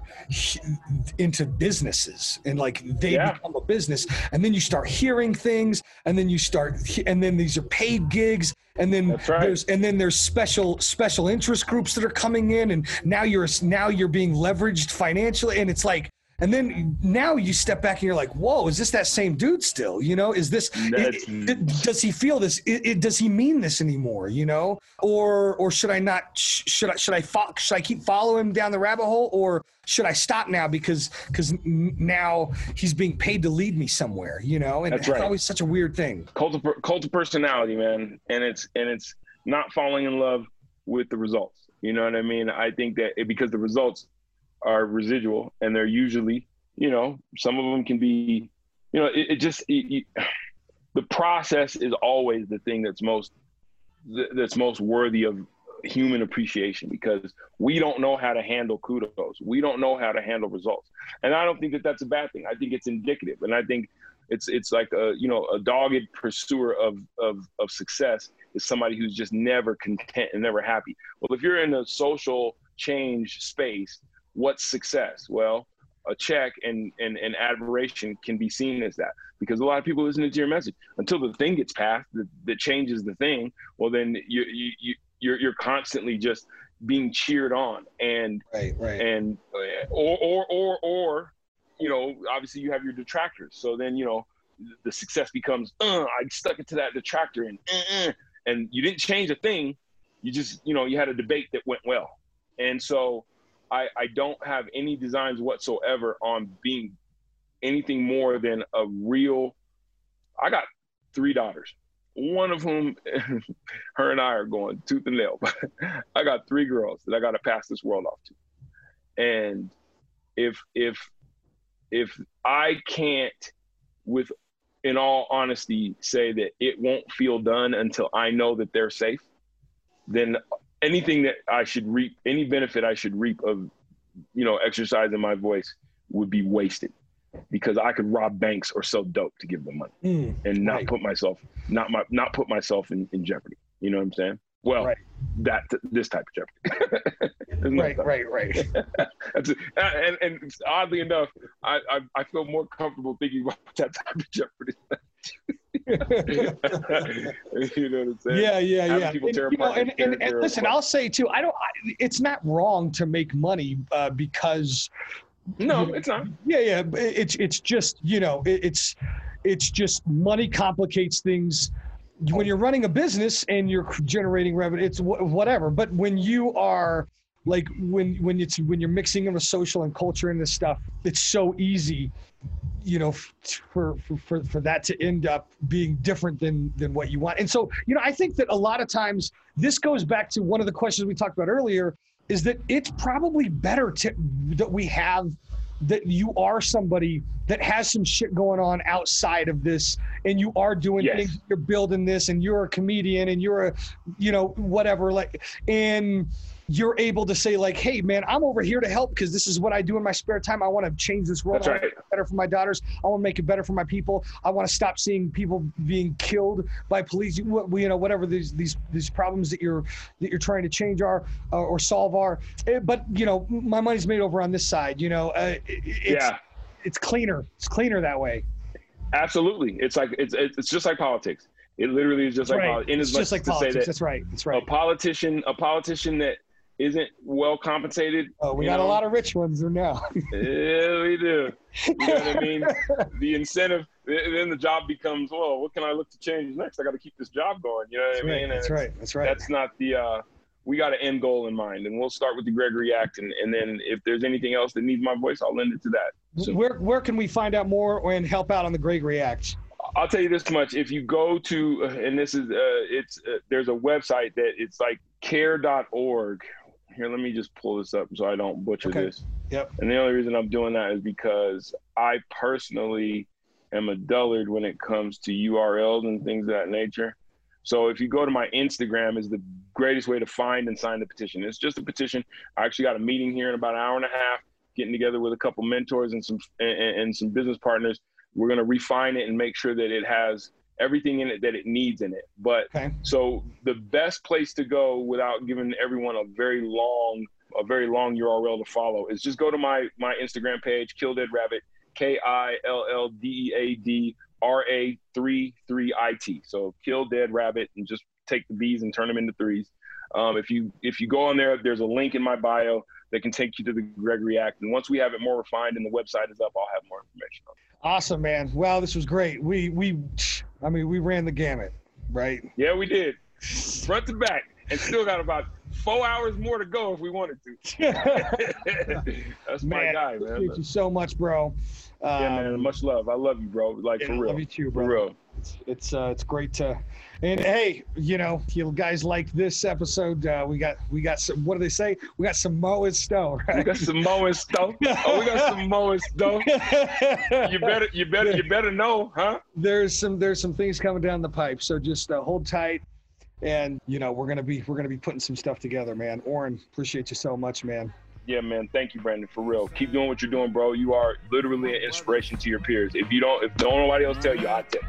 into businesses, and like they
Yeah.
become a business, and then you start hearing things, and then you start and then these are paid gigs, and then
That's right.
there's and then there's special special interest groups that are coming in, and now you're now you're being leveraged financially, and it's like, and then now you step back and you're like, whoa, is this that same dude still? You know, is this,
That's-
it, it, does he feel this? It, it, does he mean this anymore? You know, or, or should I not, sh- should I, should I, fo- should I keep following him down the rabbit hole, or should I stop now because, because now he's being paid to lead me somewhere, you know? And
That's
it's
right.
always such a weird thing.
Cult of, per- cult of personality, man. And it's, and it's not falling in love with the results. You know what I mean? I think that it, because the results are residual, and they're usually, you know, some of them can be, you know, it, it just, it, it, the process is always the thing that's most, that's most worthy of human appreciation, because we don't know how to handle kudos. We don't know how to handle results. And I don't think that that's a bad thing. I think it's indicative. And I think it's, it's like a, you know, a dogged pursuer of, of, of success is somebody who's just never content and never happy. Well, if you're in a social change space, what's success? Well, a check and, and, and admiration can be seen as that, because a lot of people listen to your message until the thing gets passed that, that changes the thing. Well, then you, you, you, you're, you're constantly just being cheered on, and,
Right, right.
and, or, or, or, or, you know, obviously you have your detractors. So then, you know, the success becomes, uh, I stuck it to that detractor, and, uh, uh, and you didn't change a thing. You just, you know, you had a debate that went well. And so, I, I don't have any designs whatsoever on being anything more than a real, I got three daughters, one of whom, her and I are going tooth and nail, but I got three girls that I got to pass this world off to. And if, if, if I can't, with, in all honesty, say that it won't feel done until I know that they're safe, then anything that I should reap, any benefit I should reap of, you know, exercising my voice would be wasted, because I could rob banks or sell dope to give them money
Mm,
and not
right.
put myself, not my, not put myself in, in jeopardy. You know what I'm saying? Well,
Right.
that, this type of jeopardy. There's no
Right,
stuff.
right, right.
That's it. And, and oddly enough, I, I, I feel more comfortable thinking about that type of jeopardy. You know what I'm saying?
Yeah, yeah,
Having
yeah.
people
And,
tear
you know,
apart
and,
their-
and, and
their-
listen, I'll say too, I don't. I, it's not wrong to make money uh, because.
No,
you know,
it's not.
Yeah, yeah. but It's it's just you know it, it's it's just money complicates things. When you're running a business and you're generating revenue, it's wh- whatever. But when you are like when when it's when you're mixing in with social and culture and this stuff, it's so easy, you know, f- for for for that to end up being different than than what you want. And so, you know, I think that a lot of times this goes back to one of the questions we talked about earlier, is that it's probably better to that we have that you are somebody that has some shit going on outside of this, and you are doing
Yes.
things, you're building this, and you're a comedian, and you're a, you know, whatever, like, and you're able to say like, hey man, I'm over here to help because this is what I do in my spare time. I want to change this world.
That's
I wanna
right.
make it better for my daughters. I want to make it better for my people. I want to stop seeing people being killed by police. You, you know, whatever these these these problems that you're that you're trying to change are uh, or solve are. Eh, But you know, my money's made over on this side. You know, uh, it, it's
Yeah.
it's cleaner. It's cleaner that way.
Absolutely. It's like, it's, it's just like politics. It literally is just like
Right.
politics. In
It's
as much
just like
as to say
politics.
that
That's right. That's
a
right.
politician, a politician that isn't well compensated.
Oh, we
you
got
know,
a lot of rich ones there now.
Yeah, we do. You know what I mean? The incentive, then the job becomes, well, what can I look to change next? I got to keep this job going. You know what
That's
I mean?
right.
And
That's
it's-
right. That's right.
That's not the, uh, we got an end goal in mind, and we'll start with the Gregory Act. And, and then if there's anything else that needs my voice, I'll lend it to that. So,
where where can we find out more and help out on the Greg Reacts?
I'll tell you this much: if you go to, and this is, uh, it's uh, there's a website that it's like care dot org. Here, let me just pull this up so I don't butcher
Okay.
this.
Yep.
And the only reason I'm doing that is because I personally am a dullard when it comes to U R Ls and things of that nature. So if you go to my Instagram, is the greatest way to find and sign the petition. It's just a petition. I actually got a meeting here in about an hour and a half, getting together with a couple mentors and some and, and some business partners. We're going to refine it and make sure that it has everything in it that it needs in it. But
Okay.
so the best place to go without giving everyone a very long, a very long U R L to follow is just go to my my Instagram page, Kill Dead Rabbit, K I L L D E A D R A three three I T. So Kill Dead Rabbit, and just take the B's and turn them into threes. Um, if you if you go on there, there's a link in my bio that can take you to the Greg React. And once we have it more refined and the website is up, I'll have more information on it.
Awesome, man. Well, this was great. We we I mean, we ran the gamut, right?
Yeah, we did. Front to back. And still got about four hours more to go if we wanted to. That's my
Man,
guy,
Thank
man.
you so much, bro.
Yeah,
Um,
man. Much love. I love you, bro. Like,
yeah,
for
I
real.
love you too, bro.
For real.
It's it's, uh, it's great to, and hey, you know, if you guys like this episode, uh, we got we got some. What do they say? We got some Mo and Stowe,
We
right?
got some Moe stuff. Oh, we got some Moe stuff. You better, you better, you better know, huh?
There's some there's some things coming down the pipe, so just uh, hold tight, and you know we're gonna be we're gonna be putting some stuff together, man. Oren, appreciate you so much, man.
Yeah, man. Thank you, Brandon. For real. Keep doing what you're doing, bro. You are literally an inspiration to your peers. If you don't, if don't nobody else tell you, I tell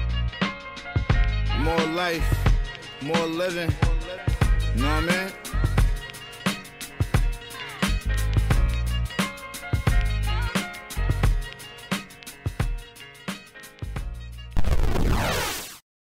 you.
More life, more living. You know what I mean?